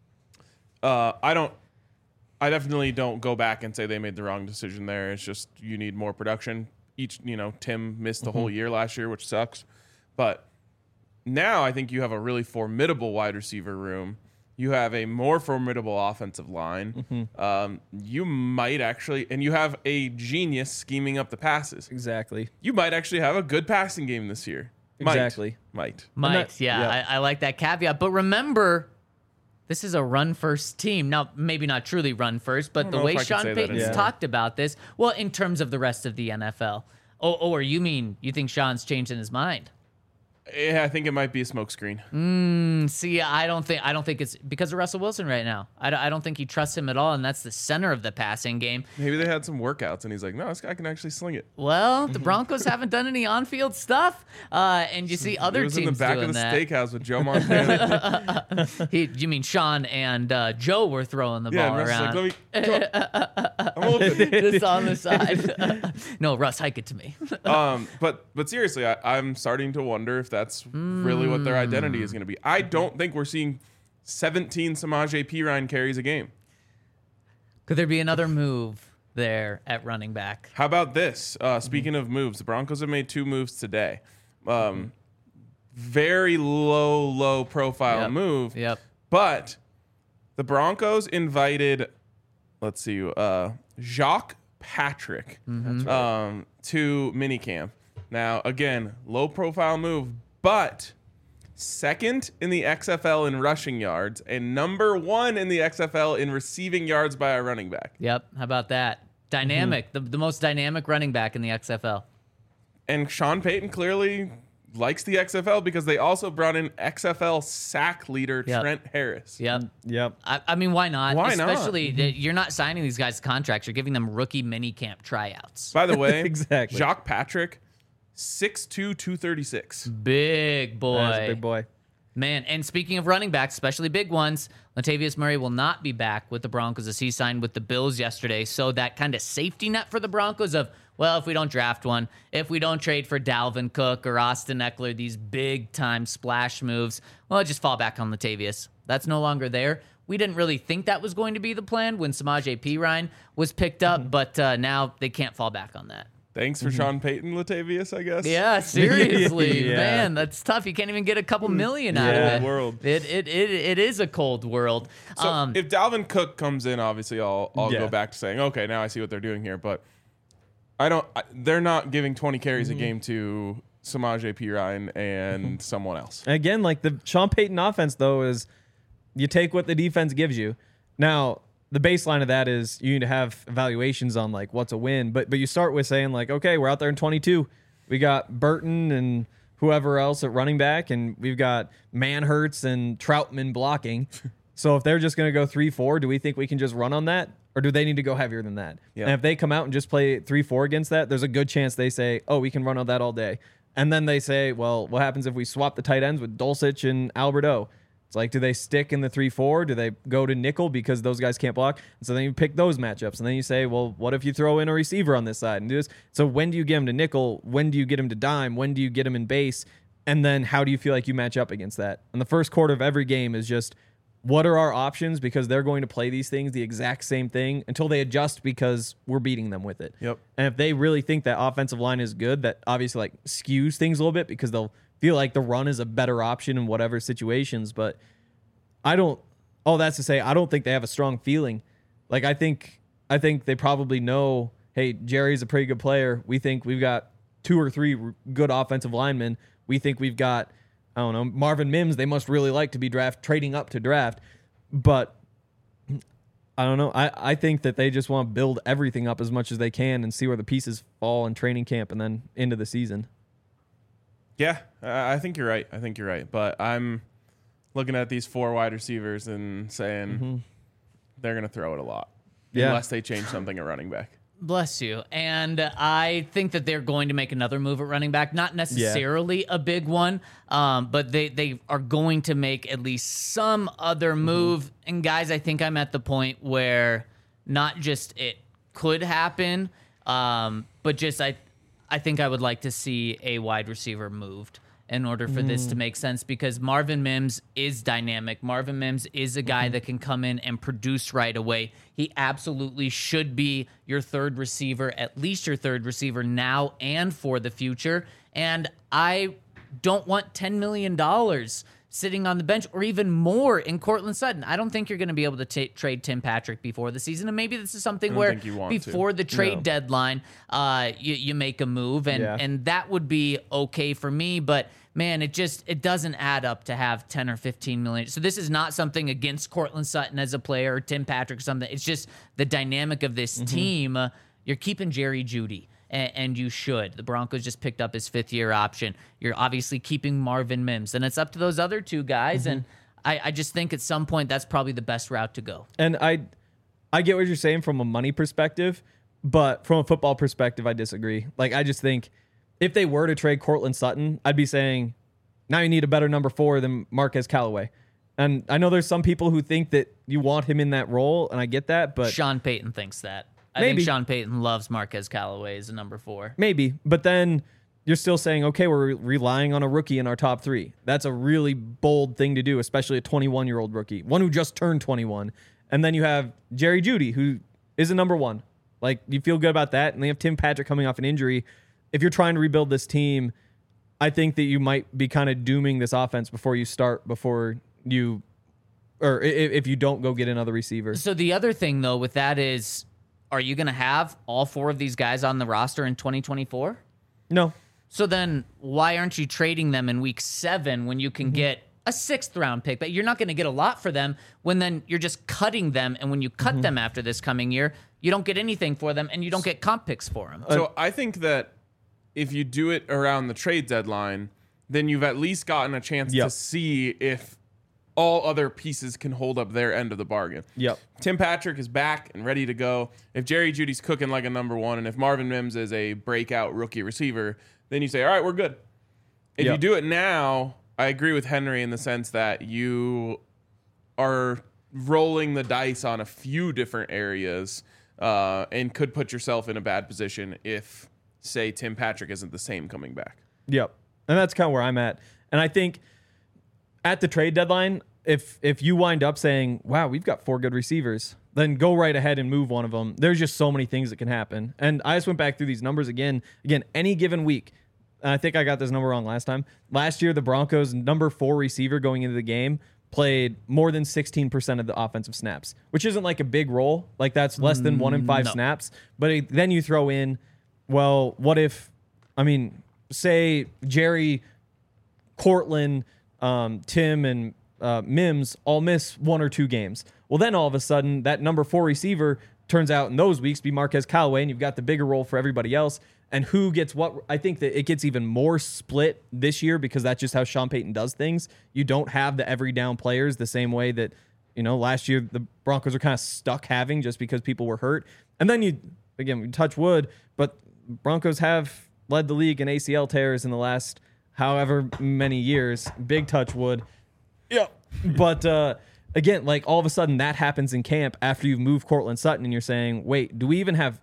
I definitely don't go back and say they made the wrong decision there. It's just you need more production. Tim missed the whole year last year, which sucks. But now I think you have a really formidable wide receiver room. You have a more formidable offensive line. Mm-hmm. You might actually, and you have a genius scheming up the passes. Exactly. You might actually have a good passing game this year. Exactly. Might. I like that caveat. But remember, this is a run-first team. Now, maybe not truly run-first, but the way Sean Payton's talked about this, well, in terms of the rest of the NFL. Or you mean you think Sean's changed in his mind? Yeah, I think it might be a smokescreen. See, I don't think it's because of Russell Wilson right now. I don't think he trusts him at all, and that's the center of the passing game. Maybe they had some workouts, and he's like, no, this guy can actually sling it. Well, the Broncos haven't done any on-field stuff, and you see other teams doing that. He was in the back of the steakhouse with Joe Montana. You mean Sean and Joe were throwing the ball around? Like, I'm open. Just on the side. No, Russ, hike it to me. But seriously, I'm starting to wonder if that's really what their identity is going to be. I don't think we're seeing 17 Samaje Perine carries a game. Could there be another move there at running back? How about this? Speaking of moves, the Broncos have made 2 moves today. Very low profile move. Yep. But the Broncos invited, Jacques Patrick to minicamp. Now, again, low profile move, but second in the XFL in rushing yards and number 1 in the XFL in receiving yards by a running back. Yep. How about that? Dynamic, the most dynamic running back in the XFL. And Sean Payton clearly likes the XFL because they also brought in XFL sack leader Trent Harris. Yep. I mean, why not? Why not? Especially, you're not signing these guys contracts. You're giving them rookie minicamp tryouts. By the way, exactly. Jacques Patrick, 6'2", 236. Big boy. That's a big boy. Man, and speaking of running backs, especially big ones, Latavius Murray will not be back with the Broncos as he signed with the Bills yesterday. So that kind of safety net for the Broncos of, well, if we don't draft one, if we don't trade for Dalvin Cook or Austin Eckler, these big-time splash moves, well, just fall back on Latavius. That's no longer there. We didn't really think that was going to be the plan when Samaje Perine was picked up, but now they can't fall back on that. Thanks for Sean Payton, Latavius, I guess. Yeah, seriously, man, that's tough. You can't even get a couple million out of it. World. It is a cold world. So if Dalvin Cook comes in, obviously I'll go back to saying, okay, now I see what they're doing here. But they're not giving 20 carries a game to Samaje Perine and someone else. Again, like the Sean Payton offense, though, is you take what the defense gives you. Now, the baseline of that is you need to have evaluations on like what's a win. But you start with saying like, okay, we're out there in 22. We got Burton and whoever else at running back, and we've got Manhertz and Troutman blocking. So if they're just going to go 3-4, do we think we can just run on that? Or do they need to go heavier than that? Yeah. And if they come out and just play 3-4 against that, there's a good chance they say, oh, we can run on that all day. And then they say, well, what happens if we swap the tight ends with Dulcich and Alberto? It's like, do they stick in the 3-4? Do they go to nickel because those guys can't block? And so then you pick those matchups. And then you say, well, what if you throw in a receiver on this side and do this? So when do you get him to nickel? When do you get him to dime? When do you get him in base? And then how do you feel like you match up against that? And the first quarter of every game is just, what are our options? Because they're going to play these things the exact same thing until they adjust because we're beating them with it. Yep. And if they really think that offensive line is good, that obviously like skews things a little bit because they'll feel like the run is a better option in whatever situations. But all that's to say, I don't think they have a strong feeling. Like I think they probably know, hey, Jerry's a pretty good player. We think we've got 2 or 3 good offensive linemen. We think we've got, I don't know, Marvin Mims, they must really like to be trading up to draft. But I don't know. I think that they just want to build everything up as much as they can and see where the pieces fall in training camp and then into the season. Yeah, I think you're right. But I'm looking at these 4 wide receivers and saying they're going to throw it a lot. Yeah. Unless they change something at running back. Bless you. And I think that they're going to make another move at running back. Not necessarily a big one, but they are going to make at least some other move. And guys, I think I'm at the point where not just it could happen, but just I think I would like to see a wide receiver moved in order for this to make sense, because Marvin Mims is dynamic. Marvin Mims is a guy that can come in and produce right away. He absolutely should be your third receiver, at least your third receiver now and for the future. And I don't want $10 million sitting on the bench or even more in Courtland Sutton. I don't think you're going to be able to trade Tim Patrick before the season. And maybe this is something where before the trade deadline, you make a move, and that would be okay for me. But man, it doesn't add up to have 10 or 15 million. So this is not something against Courtland Sutton as a player or Tim Patrick or something. It's just the dynamic of this team. You're keeping Jerry Jeudy, and you should. The Broncos just picked up his 5th-year option. You're obviously keeping Marvin Mims, and it's up to those other 2 guys. And I just think at some point that's probably the best route to go. And I get what you're saying from a money perspective, but from a football perspective, I disagree. Like, I just think if they were to trade Courtland Sutton, I'd be saying, now you need a better number 4 than Marquez Callaway. And I know there's some people who think that you want him in that role, and I get that, but Sean Payton thinks that. I Maybe. think Sean Payton loves Marquez Callaway as a number 4. maybe. But then you're still saying, okay, we're relying on a rookie in our top 3. That's a really bold thing to do, especially a 21-year-old rookie, one who just turned 21. And then you have Jerry Jeudy, who is a number 1. Like, you feel good about that. And they have Tim Patrick coming off an injury. If you're trying to rebuild this team, I think that you might be kind of dooming this offense before you if you don't go get another receiver. So the other thing, though, with that is, are you going to have all 4 of these guys on the roster in 2024? No. So then why aren't you trading them in week 7 when you can get a 6th-round pick? But you're not going to get a lot for them when then you're just cutting them. And when you cut them after this coming year, you don't get anything for them, and you don't get comp picks for them. So I think that if you do it around the trade deadline, then you've at least gotten a chance to see if all other pieces can hold up their end of the bargain. Yep. Tim Patrick is back and ready to go. If Jerry Jeudy's cooking like a number 1, and if Marvin Mims is a breakout rookie receiver, then you say, all right, we're good. If you do it now, I agree with Henry in the sense that you are rolling the dice on a few different areas and could put yourself in a bad position if, say, Tim Patrick isn't the same coming back. Yep. And that's kind of where I'm at. And I think at the trade deadline, if you wind up saying, wow, we've got 4 good receivers, then go right ahead and move one of them. There's just so many things that can happen. And I just went back through these numbers again, any given week. And I think I got this number wrong last time. Last year, the Broncos' number 4 receiver going into the game played more than 16% of the offensive snaps, which isn't like a big role. Like, that's less than 1 in 5 snaps. But then you throw in, well, what if, say Jerry, Courtland, Tim, and Mims all miss 1 or 2 games. Well, then all of a sudden, that number 4 receiver turns out in those weeks to be Marquez Callaway, and you've got the bigger role for everybody else. And who gets what? I think that it gets even more split this year because that's just how Sean Payton does things. You don't have the every down players the same way that, last year the Broncos are kind of stuck having just because people were hurt. And then we touch wood, but Broncos have led the league in ACL tears in the last however many years. Big touch wood. Yeah. But again, like all of a sudden that happens in camp after you've moved Cortland Sutton and you're saying, wait, do we even have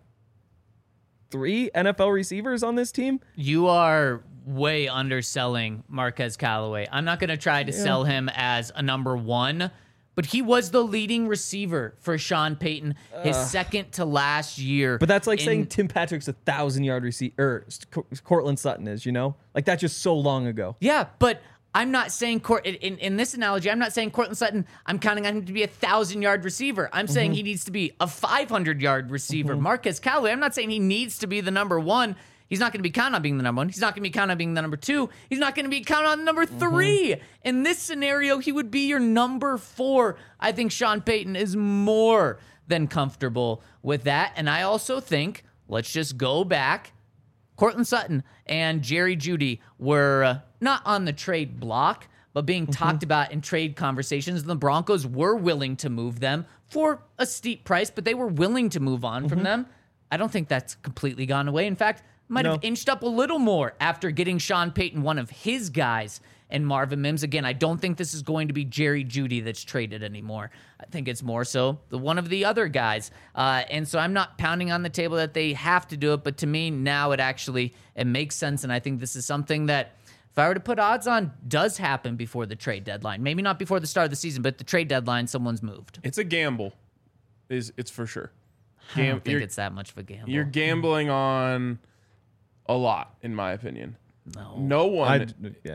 3 NFL receivers on this team? You are way underselling Marquez Callaway. I'm not going to try to sell him as a number 1, but he was the leading receiver for Sean Payton his second to last year. But that's like saying Tim Patrick's 1,000-yard receiver, or Cortland Sutton is, Like that's just so long ago. Yeah, but I'm not saying in this analogy, I'm not saying Cortland Sutton, I'm counting on him to be a 1,000-yard receiver. I'm saying he needs to be a 500-yard receiver. Marquez Callaway, I'm not saying he needs to be the number 1. He's not going to be counted on being the number 1. He's not going to be counted on being the number 2. He's not going to be counted on the number 3. In this scenario, he would be your number 4. I think Sean Payton is more than comfortable with that. And I also think, let's just go back, Cortland Sutton and Jerry Jeudy were not on the trade block, but being talked about in trade conversations. The Broncos were willing to move them for a steep price, but they were willing to move on from them. I don't think that's completely gone away. In fact, might have inched up a little more after getting Sean Payton, one of his guys, and Marvin Mims. Again, I don't think this is going to be Jerry Jeudy that's traded anymore. I think it's more so one of the other guys. And so I'm not pounding on the table that they have to do it, but to me now it makes sense, and I think this is something that, if I were to put odds on, does happen before the trade deadline. Maybe not before the start of the season, but the trade deadline, someone's moved. It's a gamble. It's for sure. I don't think it's that much of a gamble. You're gambling on a lot, in my opinion. No one.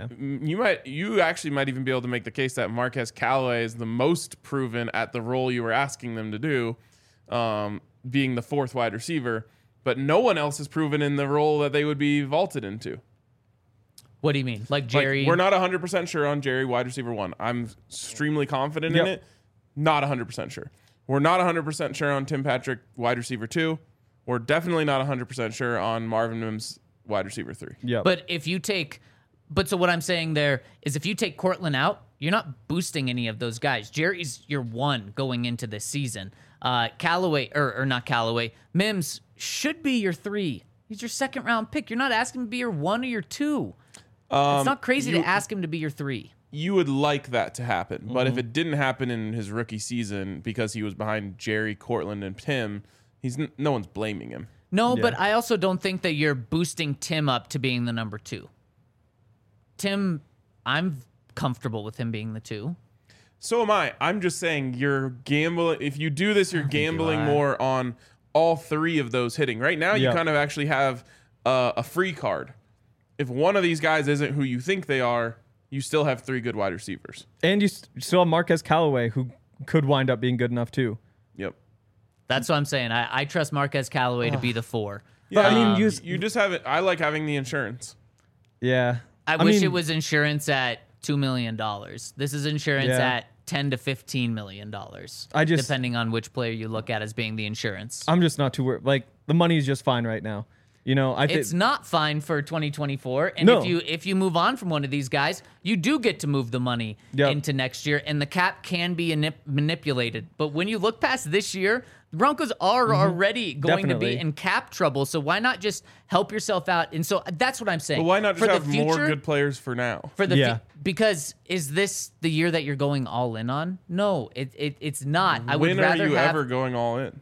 You actually might even be able to make the case that Marquez Callaway is the most proven at the role you were asking them to do, being the 4th wide receiver. But no one else is proven in the role that they would be vaulted into. What do you mean? Like Jerry? We're not 100% sure on Jerry, wide receiver 1. I'm extremely confident in it. Not 100% sure. We're not 100% sure on Tim Patrick, wide receiver 2. We're definitely not 100% sure on Marvin Mims, wide receiver 3. Yeah. But so what I'm saying there is if you take Cortland out, you're not boosting any of those guys. Jerry's your 1 going into this season. Callaway, or not Callaway, Mims should be your 3. He's your 2nd round pick. You're not asking him to be your 1 or your 2. It's not crazy to ask him to be your 3. You would like that to happen, but if it didn't happen in his rookie season because he was behind Jerry, Cortland, and Tim, no one's blaming him. No, but I also don't think that you're boosting Tim up to being the number 2. Tim, I'm comfortable with him being the 2. So am I. I'm just saying you're gambling. If you do this, you're gambling more on all 3 of those hitting. Right now, you kind of actually have a free card. If one of these guys isn't who you think they are, you still have 3 good wide receivers. And you still have Marquez Callaway, who could wind up being good enough too. Yep. That's what I'm saying. I trust Marquez Callaway to be the 4. Yeah, I mean, you just have it. I like having the insurance. Yeah. I wish it was insurance at $2 million. This is insurance at $10 to $15 million. Depending on which player you look at as being the insurance. I'm just not too worried. Like the money is just fine right now. It's not fine for 2024. And if you move on from one of these guys, you do get to move the money into next year, and the cap can be manipulated. But when you look past this year, the Broncos are already going to be in cap trouble. So why not just help yourself out? And so that's what I'm saying. But why not just have more good players for now? Because is this the year that you're going all in on? No, it's not. I would rather When are you ever going all in?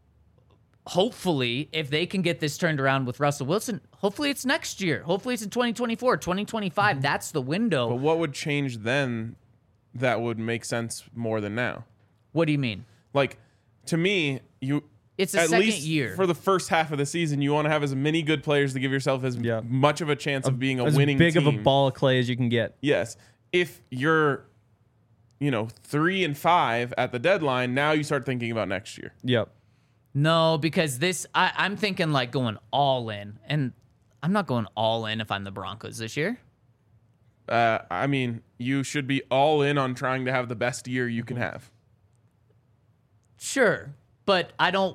Hopefully, if they can get this turned around with Russell Wilson, hopefully it's next year. Hopefully it's in 2024, 2025. That's the window. But what would change then that would make sense more than now? What do you mean? Like, to me, it's a second year. For the first half of the season, you want to have as many good players to give yourself as much of a chance of being a winning team. As big of a ball of clay as you can get. Yes. If you're, 3-5 at the deadline, now you start thinking about next year. Yep. No, because I'm thinking like going all in, and I'm not going all in if I'm the Broncos this year. I mean, you should be all in on trying to have the best year you can have. Sure, but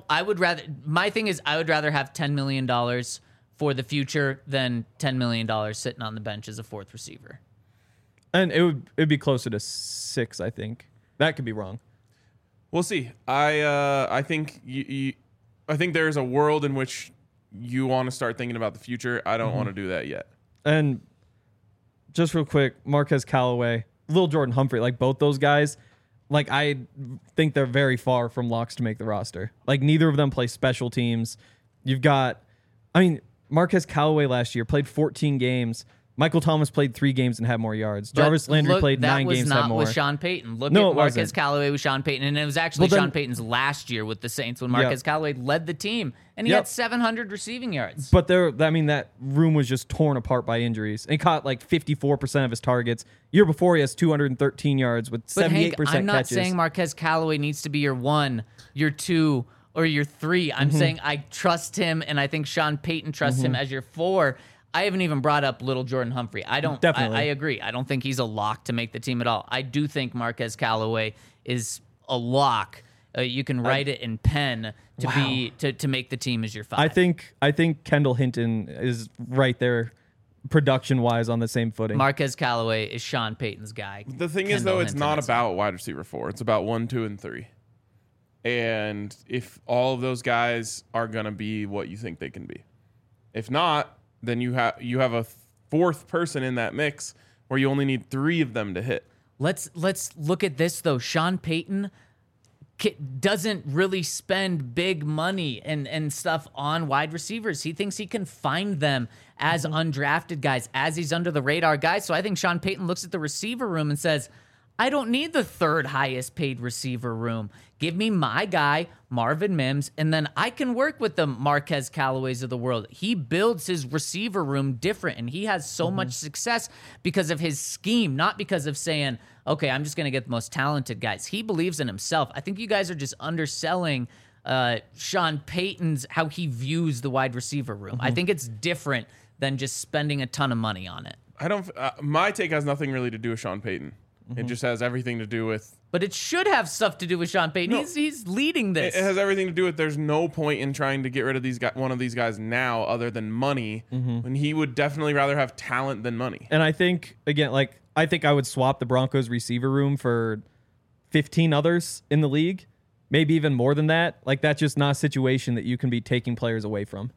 my thing is I would rather have $10 million for the future than $10 million sitting on the bench as a fourth receiver. And it'd be closer to 6, I think. That could be wrong. We'll see. I think I think there's a world in which you want to start thinking about the future. I don't want to do that yet. And just real quick, Marquez Callaway, Lil Jordan Humphrey, like both those guys, like I think they're very far from locks to make the roster. Like neither of them play special teams. You've got, Marquez Callaway last year played 14 games. Michael Thomas played 3 games and had more yards. Jarvis Landry played 9 games and had more. That was not with Sean Payton. Look at Marquez Callaway with Sean Payton. And it was actually Sean Payton's last year with the Saints when Marquez Callaway led the team. And he had 700 receiving yards. But that room was just torn apart by injuries. And he caught like 54% of his targets. Year before, he has 213 yards with 78% Hank, I'm not catches. saying Marquez Callaway needs to be your 1, your 2, or your 3. I'm saying I trust him, and I think Sean Payton trusts him as your 4. I haven't even brought up Little Jordan Humphrey. Definitely. I agree. I don't think he's a lock to make the team at all. I do think Marquez Callaway is a lock. You can write it in pen to make the team as your 5. I think Kendall Hinton is right there, production wise, on the same footing. Marquez Callaway is Sean Payton's guy. The thing is, though, it's not about wide receiver 4. It's about 1, 2, and 3. And if all of those guys are gonna be what you think they can be, if not, then you have a 4th person in that mix where you only need 3 of them to hit. Let's look at this though. Sean Payton doesn't really spend big money and stuff on wide receivers. He thinks he can find them as undrafted guys, as he's under the radar guys. So I think Sean Payton looks at the receiver room and says, I don't need the 3rd highest paid receiver room. Give me my guy, Marvin Mims, and then I can work with the Marquez Callaways of the world. He builds his receiver room different, and he has so much success because of his scheme, not because of saying, okay, I'm just going to get the most talented guys. He believes in himself. I think you guys are just underselling Sean Payton's, how he views the wide receiver room. I think it's different than just spending a ton of money on it. My take has nothing really to do with Sean Payton. It just has everything to do with... But it should have stuff to do with Sean Payton. No, he's leading this. It has everything to do with there's no point in trying to get rid of one of these guys now other than money, when he would definitely rather have talent than money. And I think, again, I think I would swap the Broncos receiver room for 15 others in the league, maybe even more than that. Like, that's just not a situation that you can be taking players away from.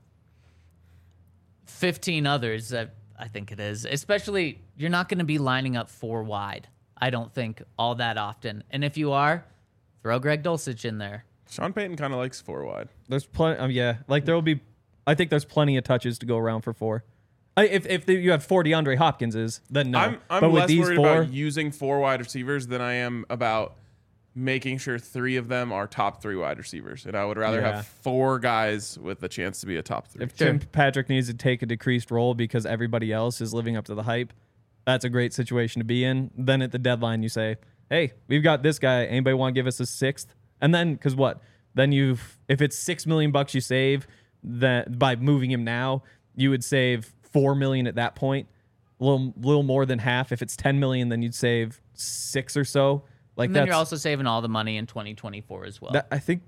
15 others, I think it is. Especially, you're not going to be lining up 4 wide. I don't think all that often. And if you are, throw Greg Dulcich in there. Sean Payton kind of likes 4 wide. There's plenty. There will be. I think there's plenty of touches to go around for 4. If you have 4 DeAndre Hopkinses, then no. I'm but with less these worried 4, about using 4 wide receivers than I am about making sure 3 of them are top 3 wide receivers. And I would rather have 4 guys with the chance to be a top 3. If Tim Patrick needs to take a decreased role because everybody else is living up to the hype, that's a great situation to be in. Then at the deadline, you say, hey, we've got this guy. Anybody want to give us a 6th? And then, because what? Then if it's $6 million you save that by moving him now, you would save $4 million at that point. A little more than half. If it's $10 million, then you'd save 6 or so. And then you're also saving all the money in 2024 as well. I think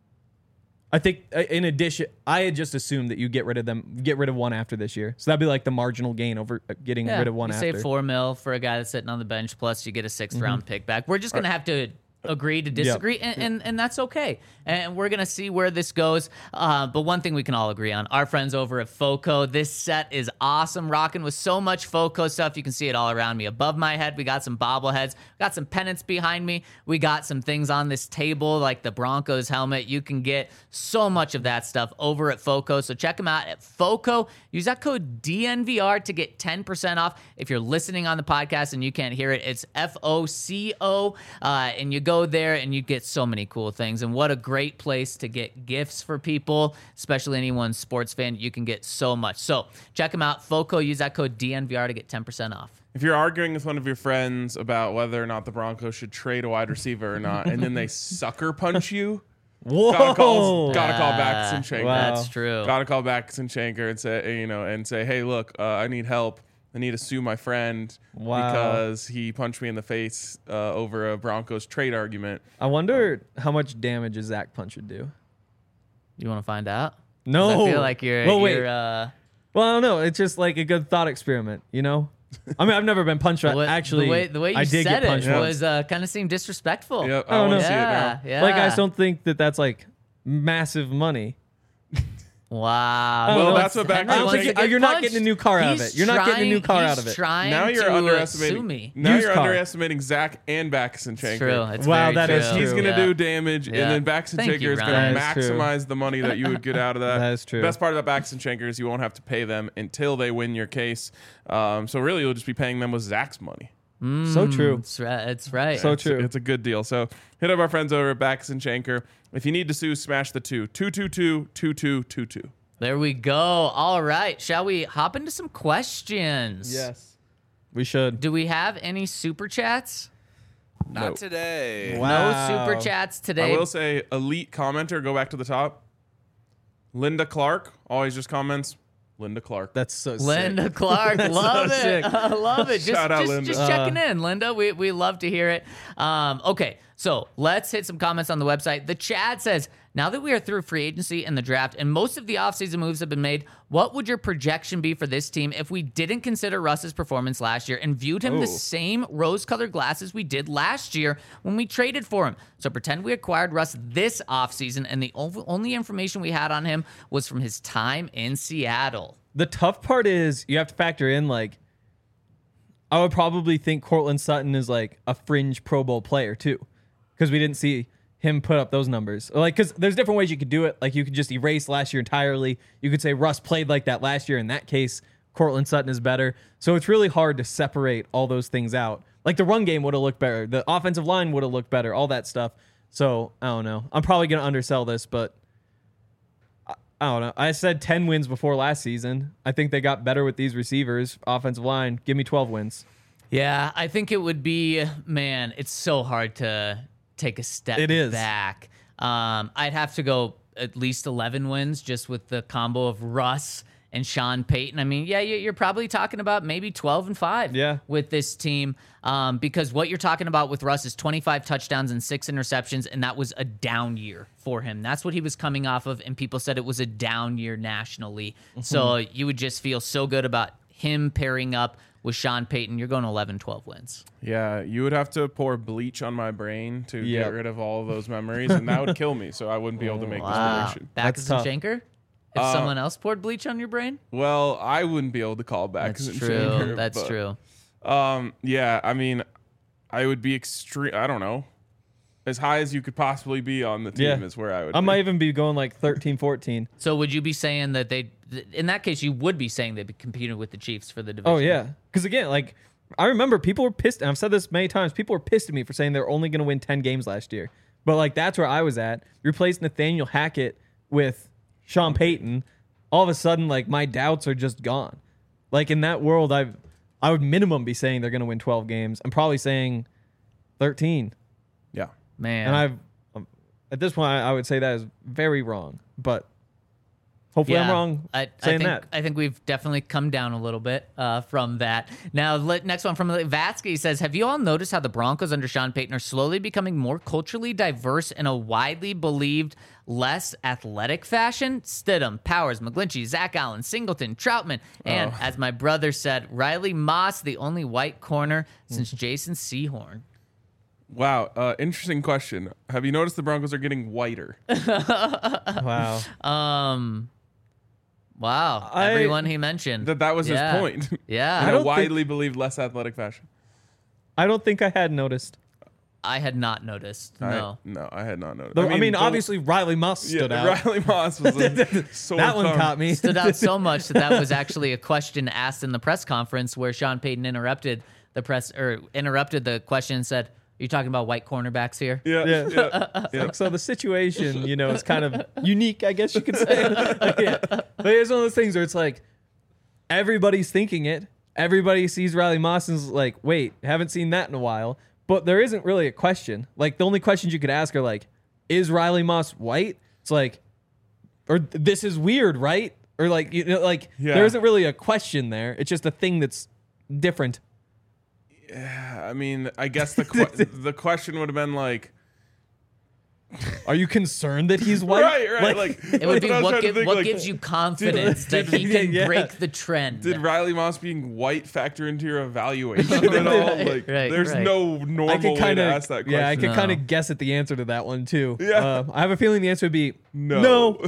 in addition, I had just assumed that you get rid of one after this year. So that'd be like the marginal gain over getting rid of one after. You save $4 million for a guy that's sitting on the bench, plus you get a 6th round pick back. We're just going to have to agree to disagree, and that's okay. And we're going to see where this goes. But one thing we can all agree on, our friends over at FOCO, this set is awesome, rocking with so much FOCO stuff. You can see it all around me. Above my head, we got some bobbleheads, got some pennants behind me. We got some things on this table like the Broncos helmet. You can get so much of that stuff over at FOCO. So check them out at FOCO. Use that code DNVR to get 10% off. If you're listening on the podcast and you can't hear it, it's FOCO. And you go there and you get so many cool things. And what a great place to get gifts for people, especially anyone sports fan. You can get so much. So check them out. FOCO. Use that code DNVR to get 10% off. If you're arguing with one of your friends about whether or not the Broncos should trade a wide receiver or not, and then they sucker punch you, whoa, gotta call back Sinchenko. That's true. Gotta call back Sinchenko and say, hey, look, I need help. I need to sue my friend Wow. because he punched me in the face over a Broncos trade argument. I wonder how much damage a Zach punch would do. You want to find out? 'Cause No. I feel like you're. Well, wait. you're Well, I don't know. It's just like a good thought experiment, you know? I mean, I've never been punched. Actually, the way you I did said get punched it once. was kind of seemed disrespectful. Yep, I I don't want know. to see it Yeah, now. yeah. Like, I just don't think that that's like massive money. Wow. Well, He that's wants- what back Henry then wants was. to get You're not punched. getting a new car out of He's it. You're not getting a new car he's out of it. Trying Now you're to underestimating. sue me. Now Used you're car. underestimating Zach and Baxton It's true. Shanker. It's Wow, very that true. is He's true. going to Yeah. do damage, Yeah. and then Baxton Thank Shanker you, is going Ryan. to That is true. maximize the money that you would get out of that. That is true. The best part about Baxton Shanker is you won't have to pay them until they win your case. So really, you'll just be paying them with Zach's money. So true. It's right. It's right. So true. It's a good deal. So hit up our friends over at Baxton Shanker. If you need to sue, smash the 222-2222. There we go. All right. Shall we hop into some questions? Yes. We should. Do we have any super chats? Not Nope. today. Wow. No super chats I today. will say, elite commenter, go back to the top. Linda Clark always just comments, Linda Clark. That's so sick. Linda Clark, That's love so it. sick. I love it. Shout out, Linda. Just checking in, Linda. We love to hear it. Okay, so let's hit some comments on the website. The Chad says, now that we are through free agency and the draft and most of the offseason moves have been made, what would your projection be for this team if we didn't consider Russ's performance last year and viewed him Ooh. the same rose-colored glasses we did last year when we traded for him? So pretend we acquired Russ this offseason and the only information we had on him was from his time in Seattle. The tough part is you have to factor in, like, I would probably think Cortland Sutton is like a fringe Pro Bowl player too, because we didn't see him put up those numbers. Like, because there's different ways you could do it. Like, you could just erase last year entirely. You could say Russ played like that last year. In that case, Cortland Sutton is better. So it's really hard to separate all those things out. Like, the run game would have looked better. The offensive line would have looked better. All that stuff. So I don't know. I'm probably going to undersell this, but I don't know. I said 10 wins before last season. I think they got better with these receivers. Offensive line, give me 12 wins. Yeah, I think it would be, man, it's so hard to take a step It is. back. I'd have to go at least 11 wins just with the combo of Russ and Sean Payton. I mean, yeah, you're probably talking about maybe 12-5 Yeah. with this team because what you're talking about with Russ is 25 touchdowns and 6 interceptions, and that was a down year for him. That's what he was coming off of, and people said it was a down year nationally. So you would just feel so good about him pairing up with Sean Payton. You're going 11-12 wins. Yeah, you would have to pour bleach on my brain to Yep. get rid of all of those memories, and that would kill me. So I wouldn't be able to make this Wow. prediction. That's Baxton tough. Shanker? If someone else poured bleach on your brain? Well, I wouldn't be able to call back. That's true. That's true. Yeah, I mean, I would be extreme. I don't know, as high as you could possibly be on the team Yeah. is where I would. I be. might even be going like 13-14. So would you be saying that in that case, you would be saying they'd be competing with the Chiefs for the division? Oh, yeah. Because, again, like, I remember people were pissed. And I've said this many times. People were pissed at me for saying they're only going to win 10 games last year. But, like, that's where I was at. Replace Nathaniel Hackett with Sean Payton. All of a sudden, like, my doubts are just gone. Like, in that world, I would minimum be saying they're going to win 12 games. I'm probably saying 13. Yeah. Man. And at this point, I would say that is very wrong. But hopefully I'm wrong saying that. I think we've definitely come down a little bit from that. Now, next one from Vatsky says, have you all noticed how the Broncos under Sean Payton are slowly becoming more culturally diverse in a widely believed less athletic fashion? Stidham, Powers, McGlinchey, Zach Allen, Singleton, Troutman, and as my brother said, Riley Moss, the only white corner since Jason Sehorn. Wow. Interesting question. Have you noticed the Broncos are getting whiter? Wow. Wow. I- Everyone he mentioned. That was Yeah. his point. Yeah. In I a don't widely believed less athletic fashion. I don't think I had noticed. I had not noticed. No. I had not noticed. Though, I mean, the- obviously, Riley Moss stood out. Riley Moss was a sore That one thumb. caught me. Stood out so much that was actually a question asked in the press conference where Sean Payton interrupted the question and said, "Are you talking about white cornerbacks here?" Yeah. Like, so the situation, is kind of unique, I guess you could say. Yeah. But it's one of those things where it's like everybody's thinking it. Everybody sees Riley Moss and is like, wait, haven't seen that in a while. But there isn't really a question. Like, the only questions you could ask are like, is Riley Moss white? It's like, or this is weird, right? Or like, Yeah. there isn't really a question there. It's just a thing that's different. I mean, I guess the question would have been like, Are you concerned that he's white? right. Like It would be that's what, I was trying to think, like, gives you confidence that he can Yeah. break the trend. Did Riley Moss being white factor into your evaluation at all? Like, there's right. no normal way to ask that question. Yeah, I could No. kind of guess at the answer to that one too. Yeah. I have a feeling the answer would be No.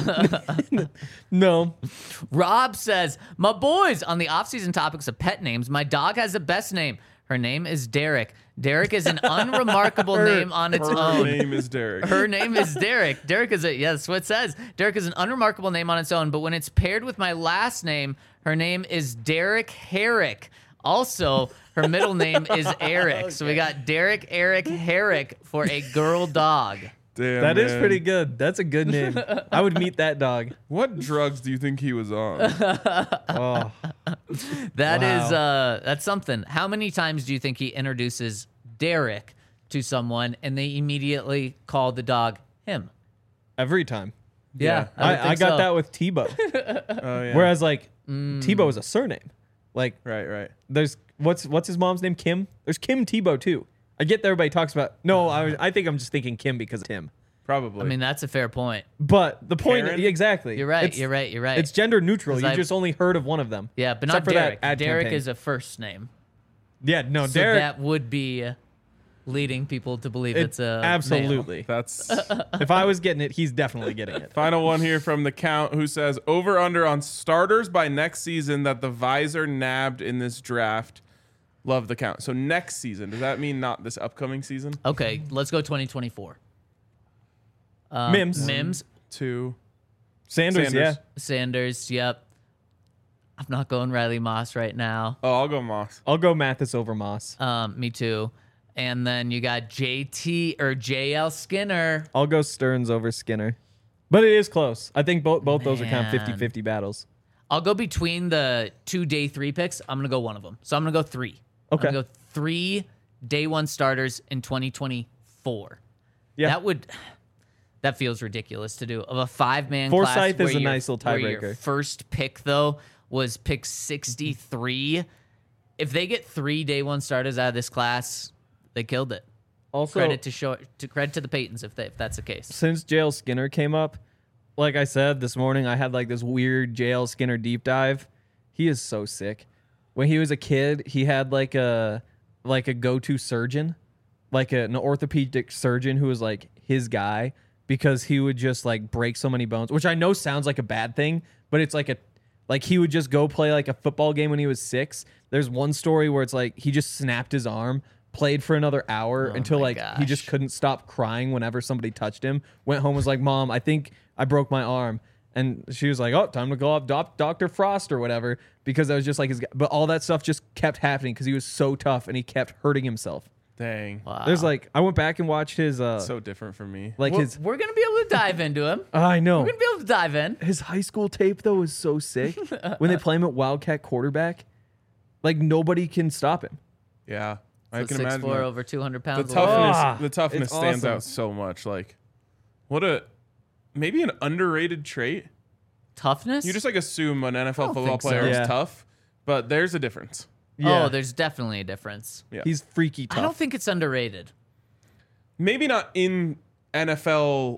no. Rob says, my boys, on the off-season topics of pet names, my dog has the best name. Her name is Derek. Derek is an unremarkable name on its Her own. name is Derek. Her name is Derek. Derek is that's what it says. Derek is an unremarkable name on its own, but when it's paired with my last name, her name is Derek Herrick. Also, her middle name is Eric. So we got Derek Eric Herrick for a girl dog. Damn, That is man. pretty good. That's a good name. I would meet that dog. What drugs do you think he was on? Oh, That is Wow. that's something. How many times do you think he introduces Derek to someone and they immediately call the dog him? every time. Yeah, I got that with Tebow. Oh yeah. Whereas like Tebow is a surname. Like Right. there's what's his mom's name? Kim. There's Kim Tebow too. I get that everybody talks about. No, I think I'm just thinking Kim because of Tim. Probably. I mean, that's a fair point. But the point, Karen? exactly. You're right. It's- You're right. It's gender neutral. 'Cause You I've- just only heard of one of them. Yeah, but Except not for that Derek. ad Derek campaign. is a first name. Yeah, no, So Derek. that would be leading people to believe it's a male. absolutely. That's If I was getting it, he's definitely getting it. final one here from the count who says over under on starters by next season that the visor nabbed in this draft. Love the count. So next season, does that mean not this upcoming season? Okay, let's go 2024. Mims. Mims, 2. Sanders, Sanders. yeah. Sanders, yep. I'm not going Riley Moss right now. Oh, I'll go Moss. I'll go Mathis over Moss. Me too. And then you got JT or JL Skinner. I'll go Stearns over Skinner. But it is close. I think both those are kind of Man. 50-50 battles. I'll go between the 2 day 3 picks. I'm going to go one of them. So I'm going to go 3. Okay. I'm going to go 3 day 1 starters in 2024. Yeah. That feels ridiculous to do. Of a 5-man Forsyth class is where a your- nice little where your tiebreaker. first pick, though, was pick 63. If they get 3 day 1 starters out of this class, they killed it. Also, Credit to the Paytons if that's the case. since JL Skinner came up, like I said this morning, I had like this weird JL Skinner deep dive. He is so sick. When he was a kid, he had like a go-to surgeon, like an orthopedic surgeon who was like his guy because he would just like break so many bones, which I know sounds like a bad thing, but it's like he would just go play like a football game when he was 6. There's one story where it's like he just snapped his arm, played for another hour until my like he just gosh. couldn't stop crying whenever somebody touched him. Went home, was like, "Mom, I think I broke my arm." And she was like, "Oh, time to go up Dr. Frost or whatever," because I was just like his guy. But all that stuff just kept happening because he was so tough and he kept hurting himself. Dang. Wow. There's like, I went back and watched his So different from me. like his. We're going to be able to dive into him. I know. We're going to be able to dive in. His high school tape though is so sick. When they play him at Wildcat quarterback, like nobody can stop him. Yeah. I So can 6'4", imagine. that. over 200 The pounds. toughness it's stands awesome. out so much. Like maybe an underrated trait. Toughness? You just like assume an NFL football think so. player is Yeah. tough, but there's a difference. Yeah. Oh, there's definitely a difference. Yeah. He's freaky tough. I don't think it's underrated. Maybe not in NFL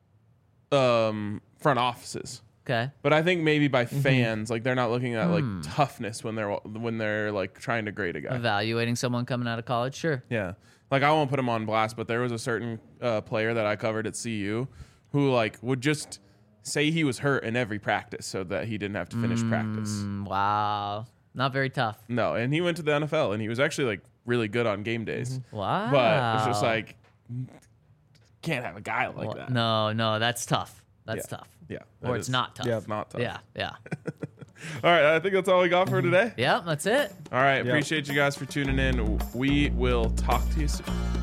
front offices, Okay. but I think maybe by Mm-hmm. fans, like they're not looking at like toughness when they're like trying to grade a guy. Evaluating someone coming out of college, sure. Yeah. Like I won't put him on blast, but there was a certain player that I covered at CU who like would just say he was hurt in every practice so that he didn't have to finish practice. Wow. Not very tough. No, and he went to the NFL and he was actually like really good on game days. Wow. But it's just like can't have a guy like that. No, that's tough. That's Yeah. tough. Yeah. Or that it's is- not tough. Yeah. It's not tough. Yeah. All right, I think that's all we got for today. Yeah, that's it. All right, appreciate you guys for tuning in. We will talk to you soon.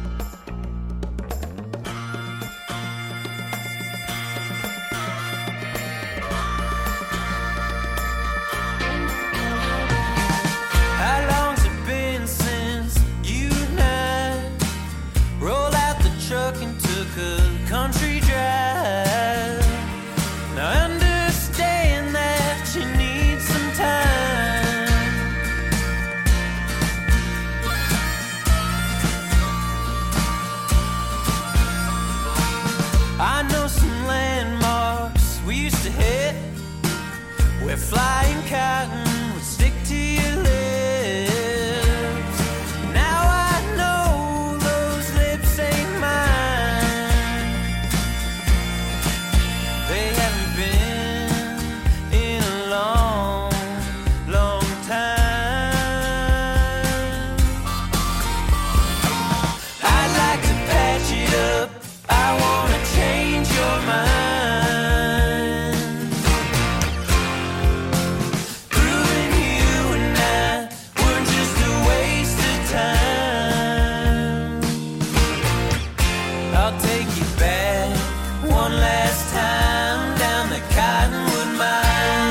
How long's it been since you and I rolled out the truck and took a country drive? Now I understand that you need some time, I know some landmarks we used to hit, where flying cotton would stick to your lips. Now I know those lips ain't mine. They haven't been in a long, long time. I'd like to patch it up. I wanna change your mind. Proving you and I were just a waste of time. I'll take you back one last time down the Cottonwood Mine.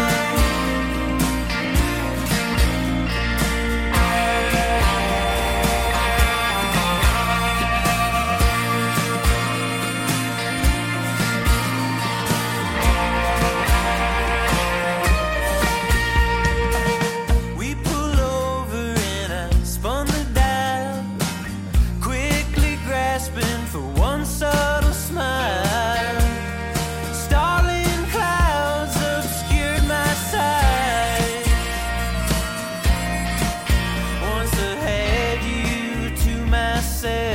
We pull over and I spun the dial, quickly grasping for one subtle smile. Starling clouds obscured my sight. Once I had you to myself.